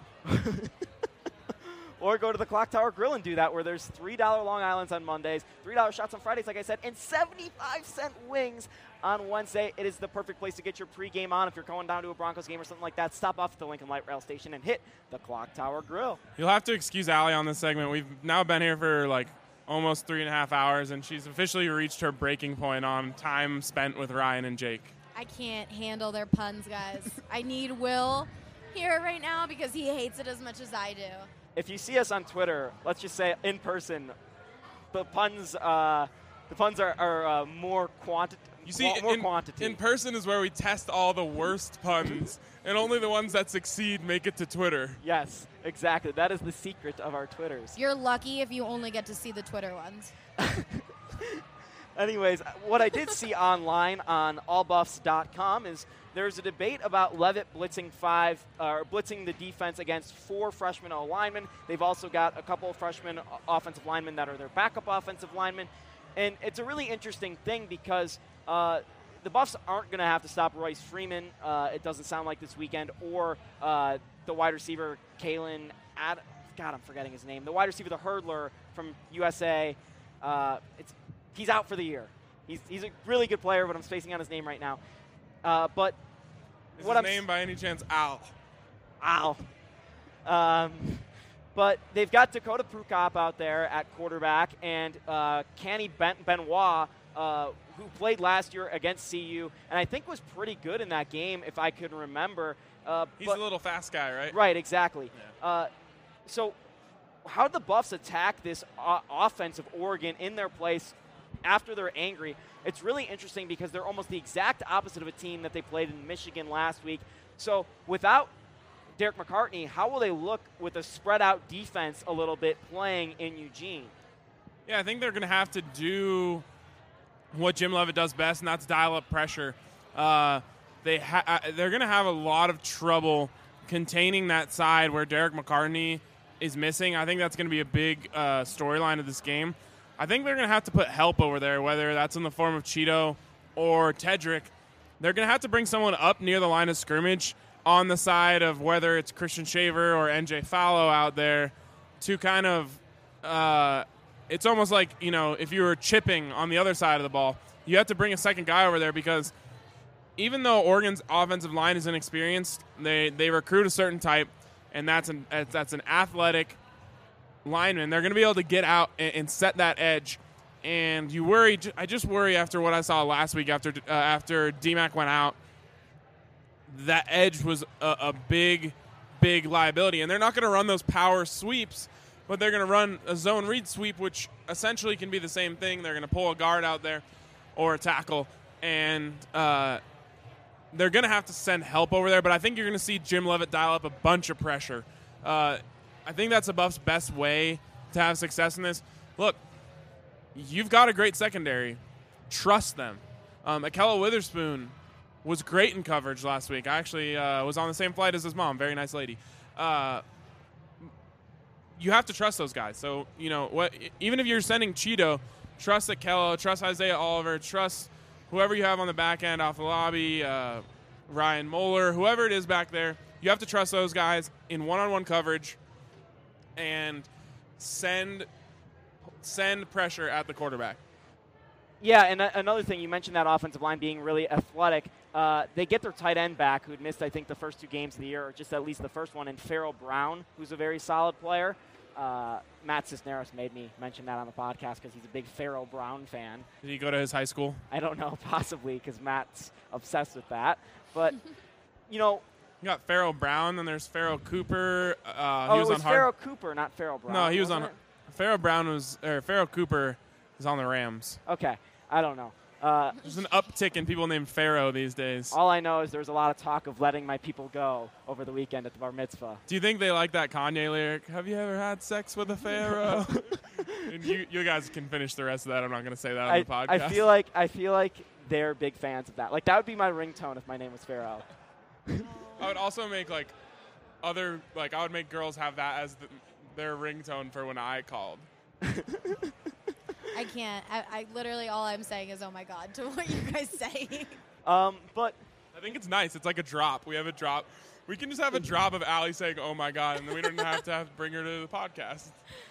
Or go to the Clock Tower Grill and do that, where there's $3 Long Islands on Mondays, $3 shots on Fridays, like I said, and 75-cent wings on Wednesday. It is the perfect place to get your pregame on if you're going down to a Broncos game or something like that. Stop off at the Lincoln Light Rail Station and hit the Clock Tower Grill. You'll have to excuse Allie on this segment. We've now been here for almost 3.5 hours, and she's officially reached her breaking point on time spent with Ryan and Jake. I can't handle their puns, guys. I need Will here right now because he hates it as much as I do. If you see us on Twitter, let's just say in person, the puns are more quantity. You see, more quantity. In person is where we test all the worst puns, and only the ones that succeed make it to Twitter. Yes, exactly. That is the secret of our Twitters. You're lucky if you only get to see the Twitter ones. Anyways, what I did see online on allbuffs.com is there's a debate about Leavitt blitzing the defense against 4 freshman O-linemen. They've also got a couple of freshman offensive linemen that are their backup offensive linemen. And it's a really interesting thing because the Buffs aren't going to have to stop Royce Freeman, it doesn't sound like this weekend, or the wide receiver, Kalen I'm forgetting his name. The wide receiver, the hurdler from USA, he's out for the year. He's a really good player, but I'm spacing on his name right now. But Is what his name by any chance Al? But they've got Dakota Prukop out there at quarterback, and Kenny Benoit, who played last year against CU, and I think was pretty good in that game, if I can remember. He's a little fast guy, right? Right, exactly. Yeah. So how did the Buffs attack this offense of Oregon in their place after they're angry? It's really interesting because they're almost the exact opposite of a team that they played in Michigan last week. So without Derek McCartney, how will they look with a spread-out defense a little bit playing in Eugene? Yeah, I think they're going to have to do what Jim Leavitt does best, and that's dial up pressure. They're going to have a lot of trouble containing that side where Derek McCartney is missing. I think that's going to be a big storyline of this game. I think they're going to have to put help over there, whether that's in the form of Cheeto or Tedrick. They're going to have to bring someone up near the line of scrimmage on the side of whether it's Christian Shaver or NJ Fallow out there to kind of it's almost like, if you were chipping on the other side of the ball, you have to bring a second guy over there because even though Oregon's offensive line is inexperienced, they recruit a certain type, and that's an athletic lineman. They're going to be able to get out and set that edge. And I just worry after what I saw last week after DMAC went out, that edge was a big, big liability. And they're not going to run those power sweeps, but they're going to run a zone read sweep, which essentially can be the same thing. They're going to pull a guard out there or a tackle, and they're going to have to send help over there. But I think you're going to see Jim Leavitt dial up a bunch of pressure. I think that's the Buffs' best way to have success in this. Look, you've got a great secondary. Trust them. Akella Witherspoon was great in coverage last week. I actually was on the same flight as his mom. Very nice lady. You have to trust those guys. So, even if you're sending Cheeto, trust Akella, trust Isaiah Oliver, trust whoever you have on the back end off the lobby, Ryan Moeller, whoever it is back there. You have to trust those guys in one-on-one coverage and send pressure at the quarterback. Yeah, and another thing, you mentioned that offensive line being really athletic. They get their tight end back, who'd missed, I think, the first 2 games of the year, or just at least the first one, and Farrell Brown, who's a very solid player. Matt Cisneros made me mention that on the podcast because he's a big Farrell Brown fan. Did he go to his high school? I don't know, possibly, because Matt's obsessed with that. But, You got Farrell Brown, and there's Farrell Cooper. It was Farrell Cooper, not Farrell Brown. No, he was on. Farrell Cooper is on the Rams. Okay, I don't know. There's an uptick in people named Pharaoh these days. All I know is there's a lot of talk of letting my people go over the weekend at the bar mitzvah. Do you think they like that Kanye lyric? Have you ever had sex with a pharaoh? And you guys can finish the rest of that. I'm not going to say that on the podcast. I feel like they're big fans of that. Like, that would be my ringtone if my name was Pharaoh. I would also make I would make girls have that as their ringtone for when I called. I can't. I literally, all I'm saying is, oh my God, to what you guys say. But I think it's nice. It's like a drop. We have a drop. We can just have a drop of Allie saying, oh my God, and then we don't have to bring her to the podcast.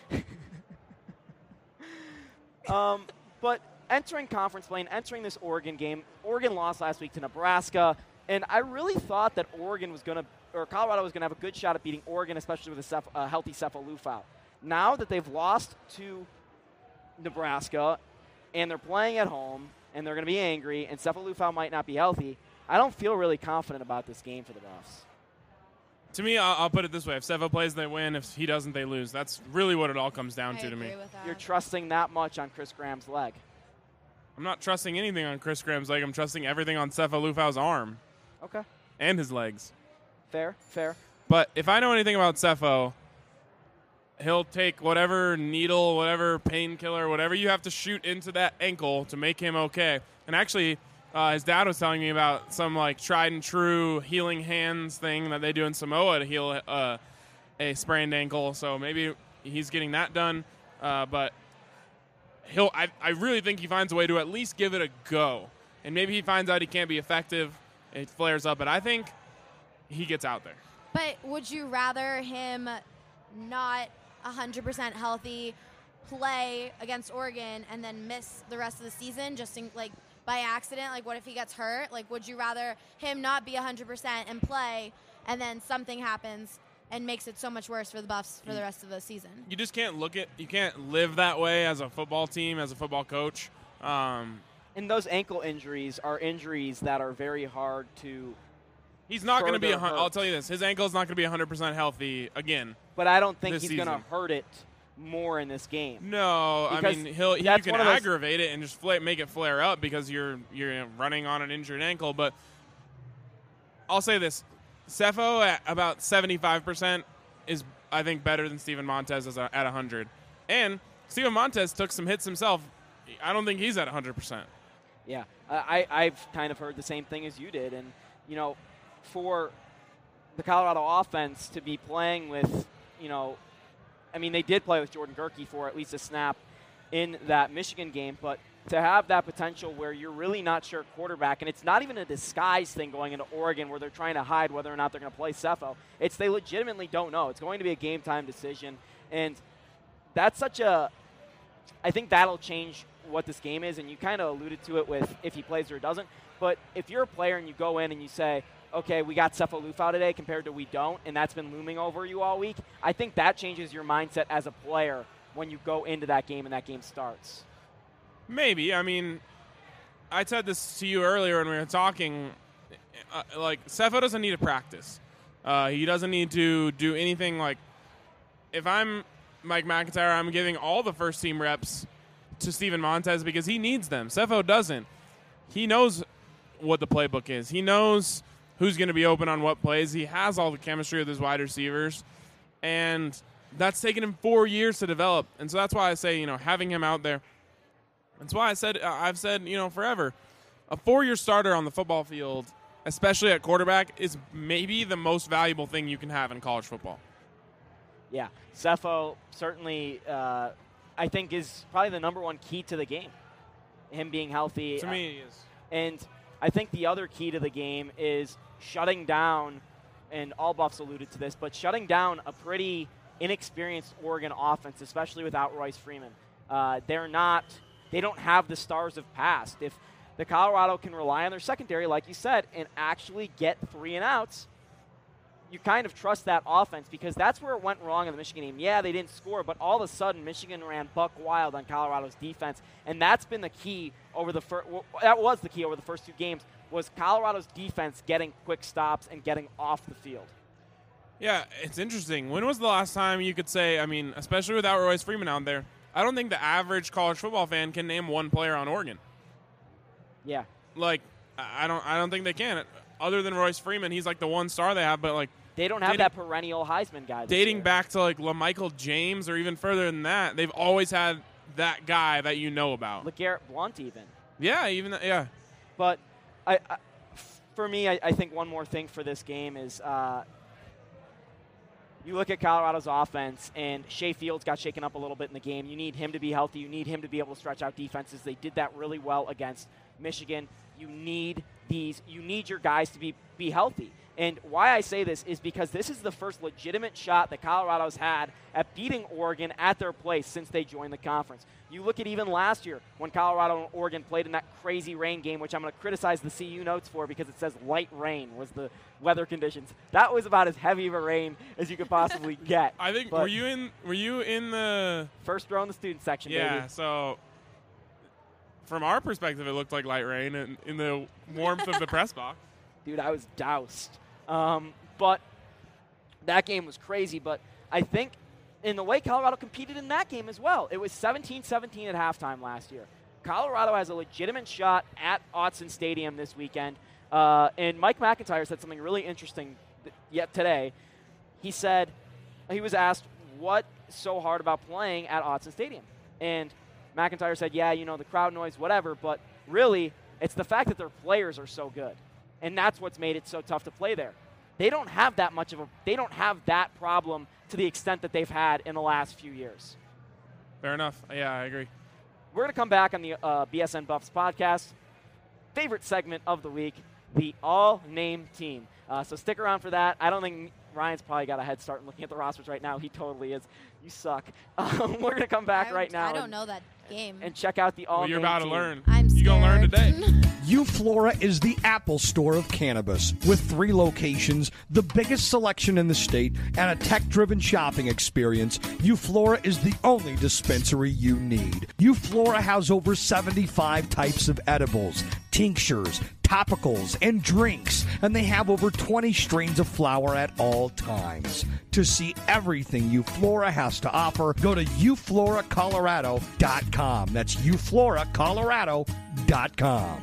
But entering conference play and entering this Oregon game, Oregon lost last week to Nebraska, and I really thought that Colorado was going to have a good shot at beating Oregon, especially with a healthy Sefo Liufau. Now that they've lost to Nebraska, and they're playing at home, and they're going to be angry, and Sefo Liufau might not be healthy, I don't feel really confident about this game for the Buffs. To me, I'll put it this way. If Sefo plays, they win. If he doesn't, they lose. That's really what it all comes down to me. With that. You're trusting that much on Chris Graham's leg. I'm not trusting anything on Chris Graham's leg. I'm trusting everything on Sefo Liufau's arm. Okay. And his legs. Fair. But if I know anything about Sefo, he'll take whatever needle, whatever painkiller, whatever you have to shoot into that ankle to make him okay. And actually, his dad was telling me about some tried and true healing hands thing that they do in Samoa to heal a sprained ankle. So maybe he's getting that done. But I really think he finds a way to at least give it a go. And maybe he finds out he can't be effective. It flares up. But I think he gets out there. But would you rather him not 100% healthy play against Oregon and then miss the rest of the season just by accident? Like, what if he gets hurt? Like, would you rather him not be 100% and play, and then something happens and makes it so much worse for the Buffs for the rest of the season? You just can't you can't live that way as a football team, as a football coach. And those ankle injuries are injuries that are very hard to. He's not going to be. I'll tell you this: his ankle is not going to be 100% healthy again. But I don't think he's going to hurt it more in this game. No, because I mean you can aggravate it and just make it flare up because you're running on an injured ankle. But I'll say this: Cepho at about 75% is, I think, better than Steven Montez at 100. And Steven Montez took some hits himself. I don't think he's at 100%. Yeah, I've kind of heard the same thing as you did. And, for the Colorado offense to be playing with, they did play with Jordan Gerke for at least a snap in that Michigan game, but to have that potential where you're really not sure quarterback, and it's not even a disguise thing going into Oregon where they're trying to hide whether or not they're going to play Cepho. They legitimately don't know. It's going to be a game-time decision, and that's I think that'll change what this game is, and you kind of alluded to it with if he plays or doesn't. But if you're a player and you go in and you say, okay, we got Cepho Lufau today compared to we don't, and that's been looming over you all week, I think that changes your mindset as a player when you go into that game and that game starts. Maybe. I mean, I said this to you earlier when we were talking. Cepho doesn't need to practice. He doesn't need to do anything. Like, if I'm Mike McIntyre, I'm giving all the first-team reps to Steven Montez because he needs them. Cepho doesn't. He knows what the playbook is. He knows who's going to be open on what plays. He has all the chemistry with his wide receivers, and that's taken him 4 years to develop. And so that's why I say, having him out there. That's why I've said, forever, a 4-year starter on the football field, especially at quarterback, is maybe the most valuable thing you can have in college football. Yeah, Cepho certainly, I think, is probably the number one key to the game, him being healthy. To me, he is. And I think the other key to the game is shutting down, and all Buffs alluded to this, but shutting down a pretty inexperienced Oregon offense, especially without Royce Freeman. They don't have the stars of past. If the Colorado can rely on their secondary, like you said, and actually get 3 and outs, you kind of trust that offense because that's where it went wrong in the Michigan game. Yeah, they didn't score, but all of a sudden Michigan ran buck wild on Colorado's defense, and that's been the key over the first 2 games was Colorado's defense getting quick stops and getting off the field. Yeah, it's interesting. When was the last time you could say, especially without Royce Freeman out there, I don't think the average college football fan can name one player on Oregon. Yeah. I don't think they can. Other than Royce Freeman, he's the one star they have, but they don't have that perennial Heisman guy. Dating back to LaMichael James or even further than that, they've always had that guy that you know about. LeGarrette Blount even. Yeah, even that, yeah. But for me, I think one more thing for this game is you look at Colorado's offense, and Shea Fields got shaken up a little bit in the game. You need him to be healthy. You need him to be able to stretch out defenses. They did that really well against Michigan. You need your guys to be healthy. And why I say this is because this is the first legitimate shot that Colorado's had at beating Oregon at their place since they joined the conference. You look at even last year when Colorado and Oregon played in that crazy rain game, which I'm going to criticize the CU notes for because it says light rain was the weather conditions. That was about as heavy of a rain as you could possibly get. I think were you in the first row in the student section? Yeah, baby. So from our perspective, it looked like light rain in the warmth of the press box. Dude, I was doused. But that game was crazy. But I think in the way Colorado competed in that game as well, it was 17-17 at halftime last year. Colorado has a legitimate shot at Autzen Stadium this weekend. And Mike McIntyre said something really interesting yet today. He said, he was asked, what's so hard about playing at Autzen Stadium? And McIntyre said, yeah, the crowd noise, whatever, but really it's the fact that their players are so good. And that's what's made it so tough to play there. They don't have that problem to the extent that they've had in the last few years. Fair enough. Yeah, I agree. We're going to come back on the BSN Buffs podcast. Favorite segment of the week, the all-name team. So stick around for that. I don't think Ryan's probably got a head start in looking at the rosters right now. He totally is. You suck. We're going to come back right now. I don't know that game. And check out the all-name Well, you're about to team. learn. I'm scared. You're going to learn today. Euflora is the Apple Store of cannabis. With 3 locations, the biggest selection in the state, and a tech-driven shopping experience, Euflora is the only dispensary you need. Euflora has over 75 types of edibles, tinctures, topicals, and drinks, and they have over 20 strains of flower at all times. To see everything Euflora has to offer, go to eufloracolorado.com. That's eufloracolorado.com.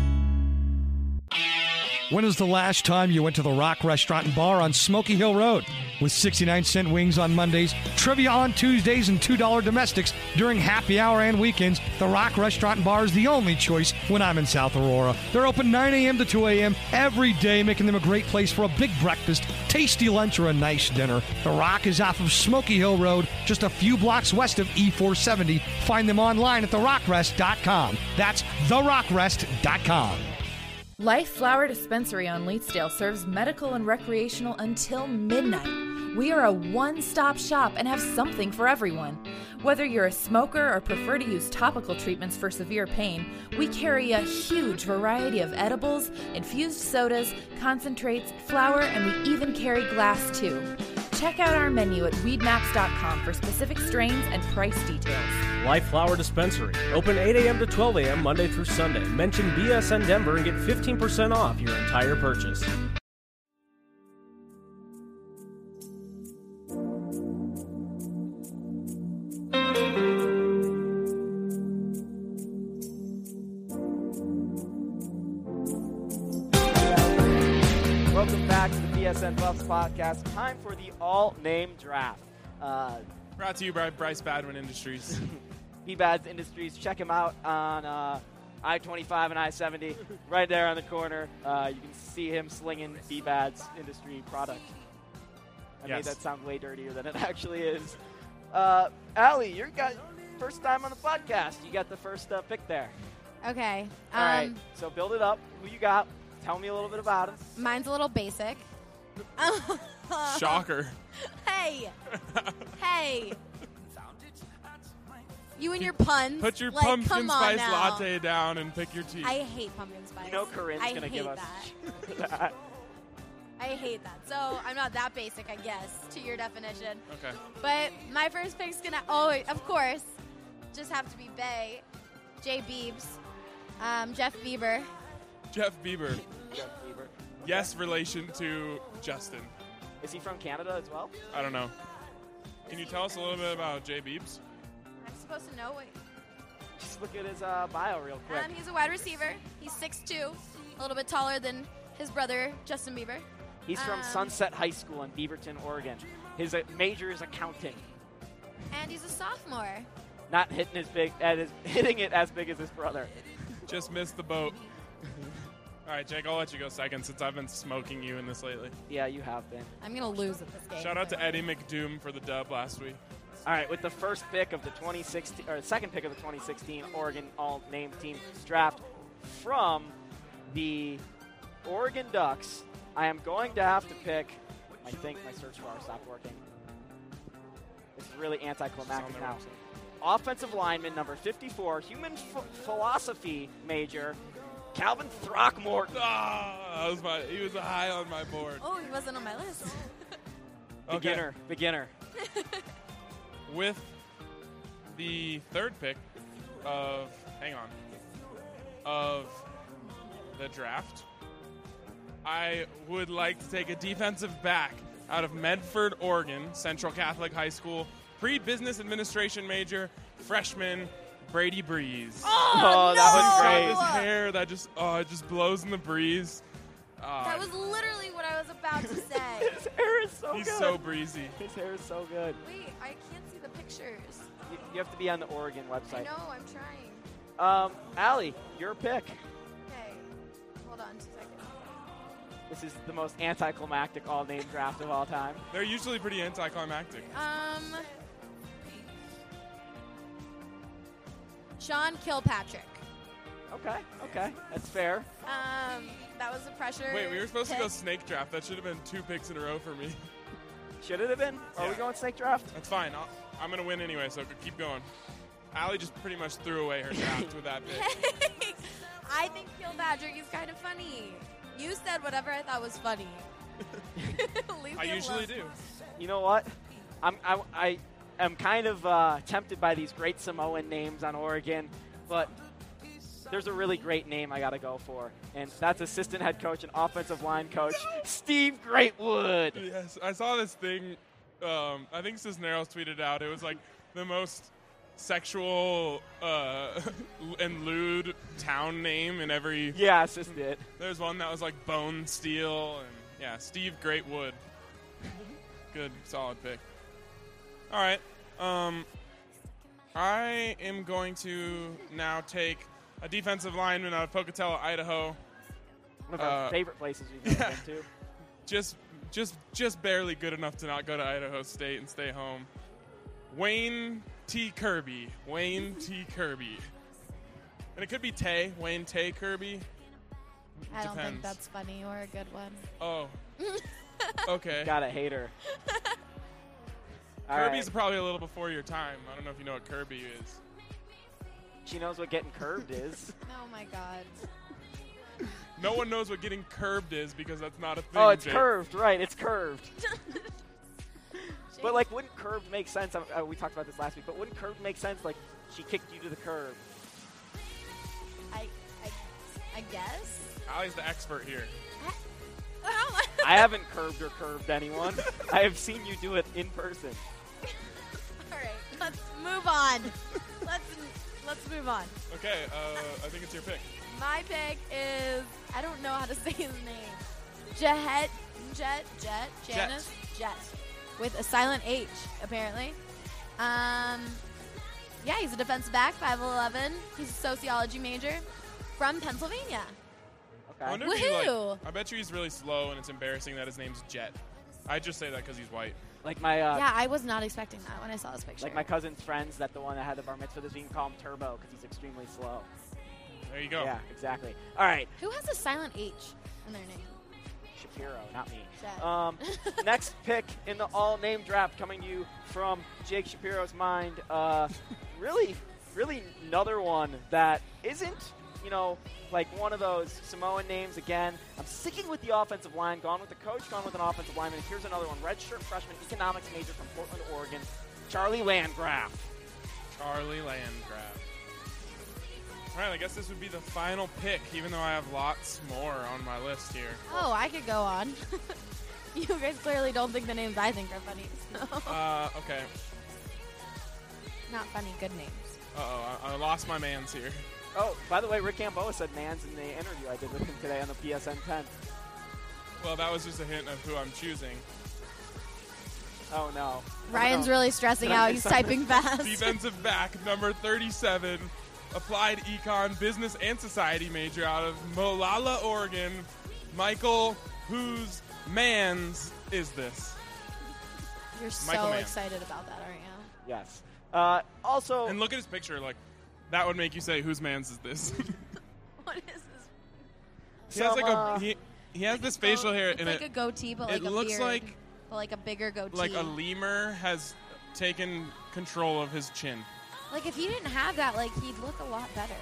When was the last time you went to the Rock Restaurant and Bar on Smoky Hill Road? With 69-cent wings on Mondays, trivia on Tuesdays, and $2 domestics during happy hour and weekends, the Rock Restaurant and Bar is the only choice when I'm in South Aurora. They're open 9 a.m. to 2 a.m. every day, making them a great place for a big breakfast, tasty lunch, or a nice dinner. The Rock is off of Smoky Hill Road, just a few blocks west of E470. Find them online at therockrest.com. That's therockrest.com. Life Flower Dispensary on Leetsdale serves medical and recreational until midnight. We are a one-stop shop and have something for everyone. Whether you're a smoker or prefer to use topical treatments for severe pain, we carry a huge variety of edibles, infused sodas, concentrates, flower, and we even carry glass too. Check out our menu at weedmaps.com for specific strains and price details. Life Flower Dispensary. Open 8 a.m. to 12 a.m. Monday through Sunday. Mention BSN Denver and get 15% off your entire purchase. Welcome back to the BSN Buffs podcast. Time for the all-name draft. Brought to you by Bryce Badwin Industries. BBADS Industries. Check him out on I-25 and I-70, right there on the corner. You can see him slinging BBADS Industry product. I made that sound way dirtier than it actually is. Allie, you're got first time on the podcast. You got the first pick there. Okay. All right. So build it up. Who you got? Tell me a little bit about it. Mine's a little basic. Shocker. Hey. Hey. You and your puns. Put your like, pumpkin come on spice now. latte down and pick your teeth. I hate pumpkin spice. You know Corinne's going to give us that. I hate that. So I'm not that basic, I guess, to your definition. Okay. But my first pick's going to, of course, just have to be Bay, Jay Biebs, Jeff Bieber. Jeff Bieber. Jeff Bieber. Yes, relation to Justin. Is he from Canada as well? I don't know. Can you tell us a little bit about Jay Biebs? I'm supposed to know. Wait. Just look at his bio real quick. He's a wide receiver. He's 6'2", a little bit taller than his brother, Justin Bieber. He's from Sunset High School in Beaverton, Oregon. His major is accounting. And he's a sophomore. Not hitting hitting it as big as his brother. Just missed the boat. All right, Jake, I'll let you go second since I've been smoking you in this lately. Yeah, you have been. I'm going to lose at this game. Shout out to Eddie McDoom for the dub last week. All right, with the first pick of the 2016, or second pick of the 2016 Oregon All-Name Team draft from the Oregon Ducks, I am going to have to pick. I think my search bar stopped working. This is really anticlimactic now. Offensive lineman number 54, human philosophy major, Calvin Throckmorton. He was high on my board. Oh, he wasn't on my list. Beginner. With the third pick of the draft, I would like to take a defensive back out of Medford, Oregon, Central Catholic High School, pre-business administration major, freshman Brady Breeze. Oh, that was great. His hair that just blows in the breeze. That was literally what I was about to say. His hair is so good. He's so breezy. His hair is so good. Wait, I can't see the pictures. You have to be on the Oregon website. I know, I'm trying. Allie, your pick. Okay, hold on 2 seconds. This is the most anticlimactic all-name draft of all time. They're usually pretty anticlimactic. Sean Kilpatrick. Okay, that's fair. That was a pressure. Wait, we were supposed to pick. go snake draft. That should have been 2 picks in a row for me. Should it have been? Are we Yeah. going snake draft? That's fine. I'm going to win anyway, so keep going. Allie just pretty much threw away her draft with that pick. I think Peel Badgering is kind of funny. You said whatever I thought was funny. Leave I me usually alone. do. You know what? I am kind of tempted by these great Samoan names on Oregon, but there's a really great name I got to go for, and that's assistant head coach and offensive line coach Steve Greatwood. Yes, I saw this thing. I think Cisneros tweeted out. It was like the most sexual and lewd town name in every. Yeah, assist it. There's one that was like Bone Steel, and yeah, Steve Greatwood. Good, solid pick. All right. I am going to now take a defensive lineman out of Pocatello, Idaho. One of our favorite places we've ever been to. Just barely good enough to not go to Idaho State and stay home. Wayne T. Kirby. Wayne T. Kirby. And it could be Tay. Wayne Tay Kirby. I don't think Depends. that's funny or a good one. Oh. Okay. Gotta hate her. All Kirby's right. probably a little before your time. I don't know if you know what Kirby is. She knows what getting curved is. Oh my God. No one knows what getting curbed is because that's not a thing. Oh, it's Jake. curved, right? It's curved. But like, wouldn't curved make sense? We talked about this last week, but wouldn't curved make sense? Like, she kicked you to the curb. I guess. Allie's the expert here. I haven't curved or curved anyone. I have seen you do it in person. All right, let's move on. Let's move on. Okay, I think it's your pick. My pick is, I don't know how to say his name. Janice Jet, with a silent H apparently. Yeah, he's a defensive back, 5'11". He's a sociology major from Pennsylvania. I Okay. wonder if he, Woohoo! I bet you he's really slow and it's embarrassing that his name's Jet. I just say that because he's white. Like my Yeah, I was not expecting that when I saw this picture. like my cousin's friends, that the one that had the bar mitzvah this week, you can call him Turbo because he's extremely slow. There you go. Yeah, exactly. All right, Who has a silent H in their name? Shapiro, not me. Jet. Next pick in the all-name draft coming to you from Jake Shapiro's mind. Really another one that isn't, like one of those Samoan names again. I'm sticking with the offensive line, gone with the coach, gone with an offensive lineman. Here's another one, redshirt freshman economics major from Portland, Oregon, Charlie Landgraf. Charlie Landgraf. All right, I guess this would be the final pick, even though I have lots more on my list here. Oh, I could go on. You guys clearly don't think the names I think are funny. So. Okay. Not funny, good names. Uh-oh, I lost my mans here. Oh, by the way, Rick Gamboa said Mans in the interview I did with him today on the PSN 10. Well, that was just a hint of who I'm choosing. Oh, no. Ryan's Oh, no. really stressing out. He's typing fast. Defensive back, number 37, applied econ, business and society major out of Molalla, Oregon. Michael, whose mans is this? You're Michael so Mann. excited about that, aren't you? Yes. Also, And look at his picture, like, that would make you say, whose mans is this? What is this? He has Some, he has this facial hair, It's and like a goatee, but like it a looks beard. like But like a bigger goatee. a lemur has taken control of his chin. Like if he didn't have that, like he'd look a lot better.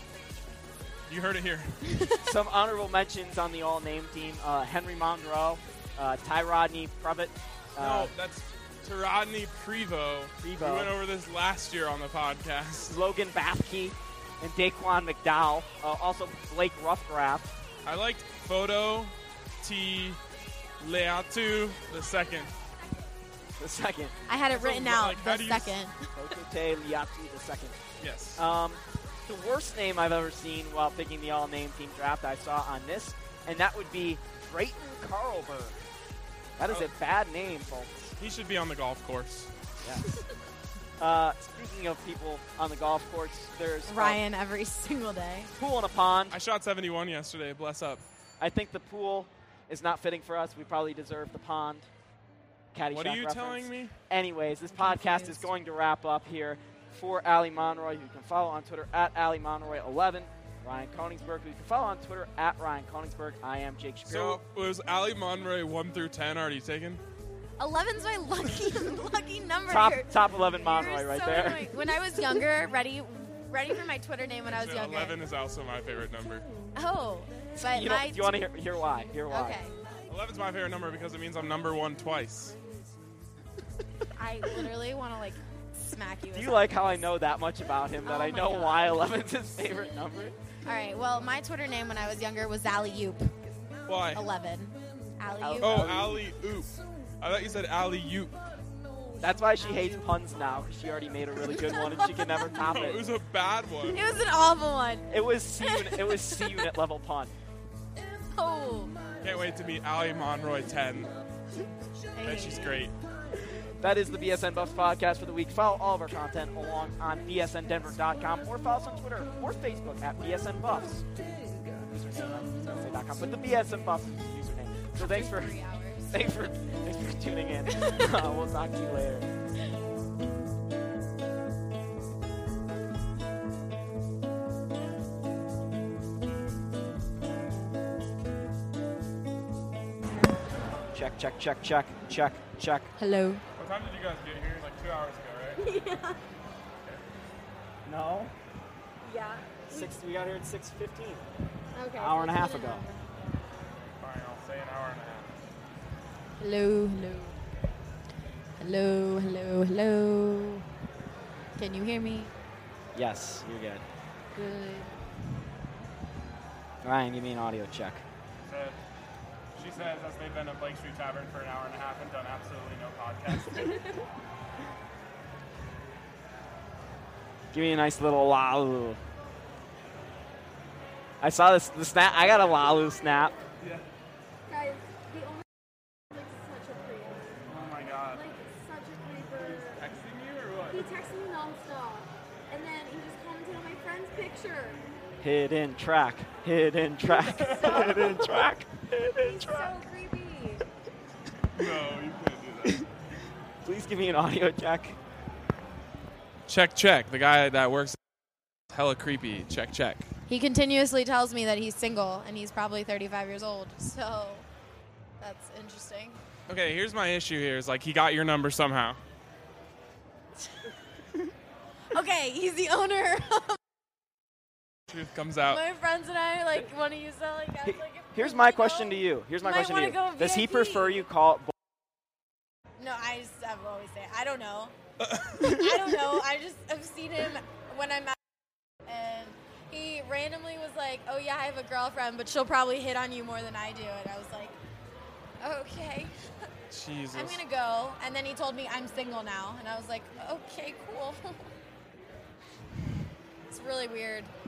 You heard it here. some honorable mentions on the all-name team. Henry Mondrow, Ty Rodney Previtt. No, that's Taradny Prevo. We Prevo. went over this last year on the podcast. Logan Bathke and Daquan McDowell. Also Blake Ruffgraff. I liked Photo T. Leatu the second. The second. I had it So, written out like, how the do you second. Okote Liatu the second. Yes. The worst name I've ever seen while picking the all-name team draft I saw on this, and that would be Drayton Carlberg. That is Oh. a bad name, folks. He should be on the golf course. Yes. Speaking of people on the golf course, there's Ryan every single day. pool in a pond. I shot 71 yesterday. Bless up. I think the pool is not fitting for us. We probably deserve the pond. Caddyshack What are you reference. telling me? Anyways, this I'm podcast confused. is going to wrap up here for Allie Monroy, who you can follow on Twitter at Allie Monroy11. Ryan Koenigsberg, who you can follow on Twitter at Ryan Koenigsberg. I am Jake Shapiro. So was Ali Monroy 1 through 10 already taken? 11's my lucky number. Top 11 Monroy right so there. Annoying. When I was younger, ready for my Twitter name when I was younger. 11 is also my favorite number. Oh, but Do you want to hear why? Okay. 11's my favorite number because it means I'm number 1 twice. I literally want to smack you. Do you like how I know that much about him that I know God. why 11's his favorite number? All right. Well, my Twitter name when I was younger was Alley Oop. Why? 11. Alley Oop. Oh, Alley Oop. I thought you said Alley Oop. That's why she hates puns now, because she already made a really good one and she can never top No, it. it was a bad one. It was an awful one. It was C unit level pun. Oh. Can't wait to meet Ali Monroy 10. Bet she's great. That is the BSN Buffs podcast for the week. Follow all of our content along on bsndenver.com or follow us on Twitter or Facebook at BSN Buffs. Username, I was gonna say .com, but the BSN Buffs is the username. So thanks for 3 hours. thanks for tuning in. We'll talk to you later. Check. Hello. What time did you guys get here? Like 2 hours ago, right? Yeah. No. Yeah. We got here at 6:15. Okay. Hour and a half ago. Fine, I'll say an hour and a half. Hello. Hello. Can you hear me? Yes, you're good. Good. Ryan, give me an audio check. She says as they've been at Blake Street Tavern for an hour and a half and done absolutely no podcast. Give me a nice little lalu. I saw the snap. I got a lalu snap. Yeah. Guys, the owner is like such a creep. Oh my god. Like such a creeper. Texting you or what? He texted me nonstop. And then he just commented on my friend's picture. Hidden track. Hidden track. He's so creepy. No, you can't do that. Please give me an audio check. Check. The guy that works hella creepy. Check. He continuously tells me that he's single and he's probably 35 years old. So that's interesting. Okay, here's my issue here. Is like he got your number somehow. Okay, he's the owner. Truth comes out. My friends and I want to use that as Here's my question to you. Does he prefer you call? No, I always say I don't know. I don't know. I just have seen him when I'm out, and he randomly was like, "Oh yeah, I have a girlfriend, but she'll probably hit on you more than I do." And I was like, "Okay." Jesus. I'm gonna go. And then he told me I'm single now, and I was like, "Okay, cool." It's really weird.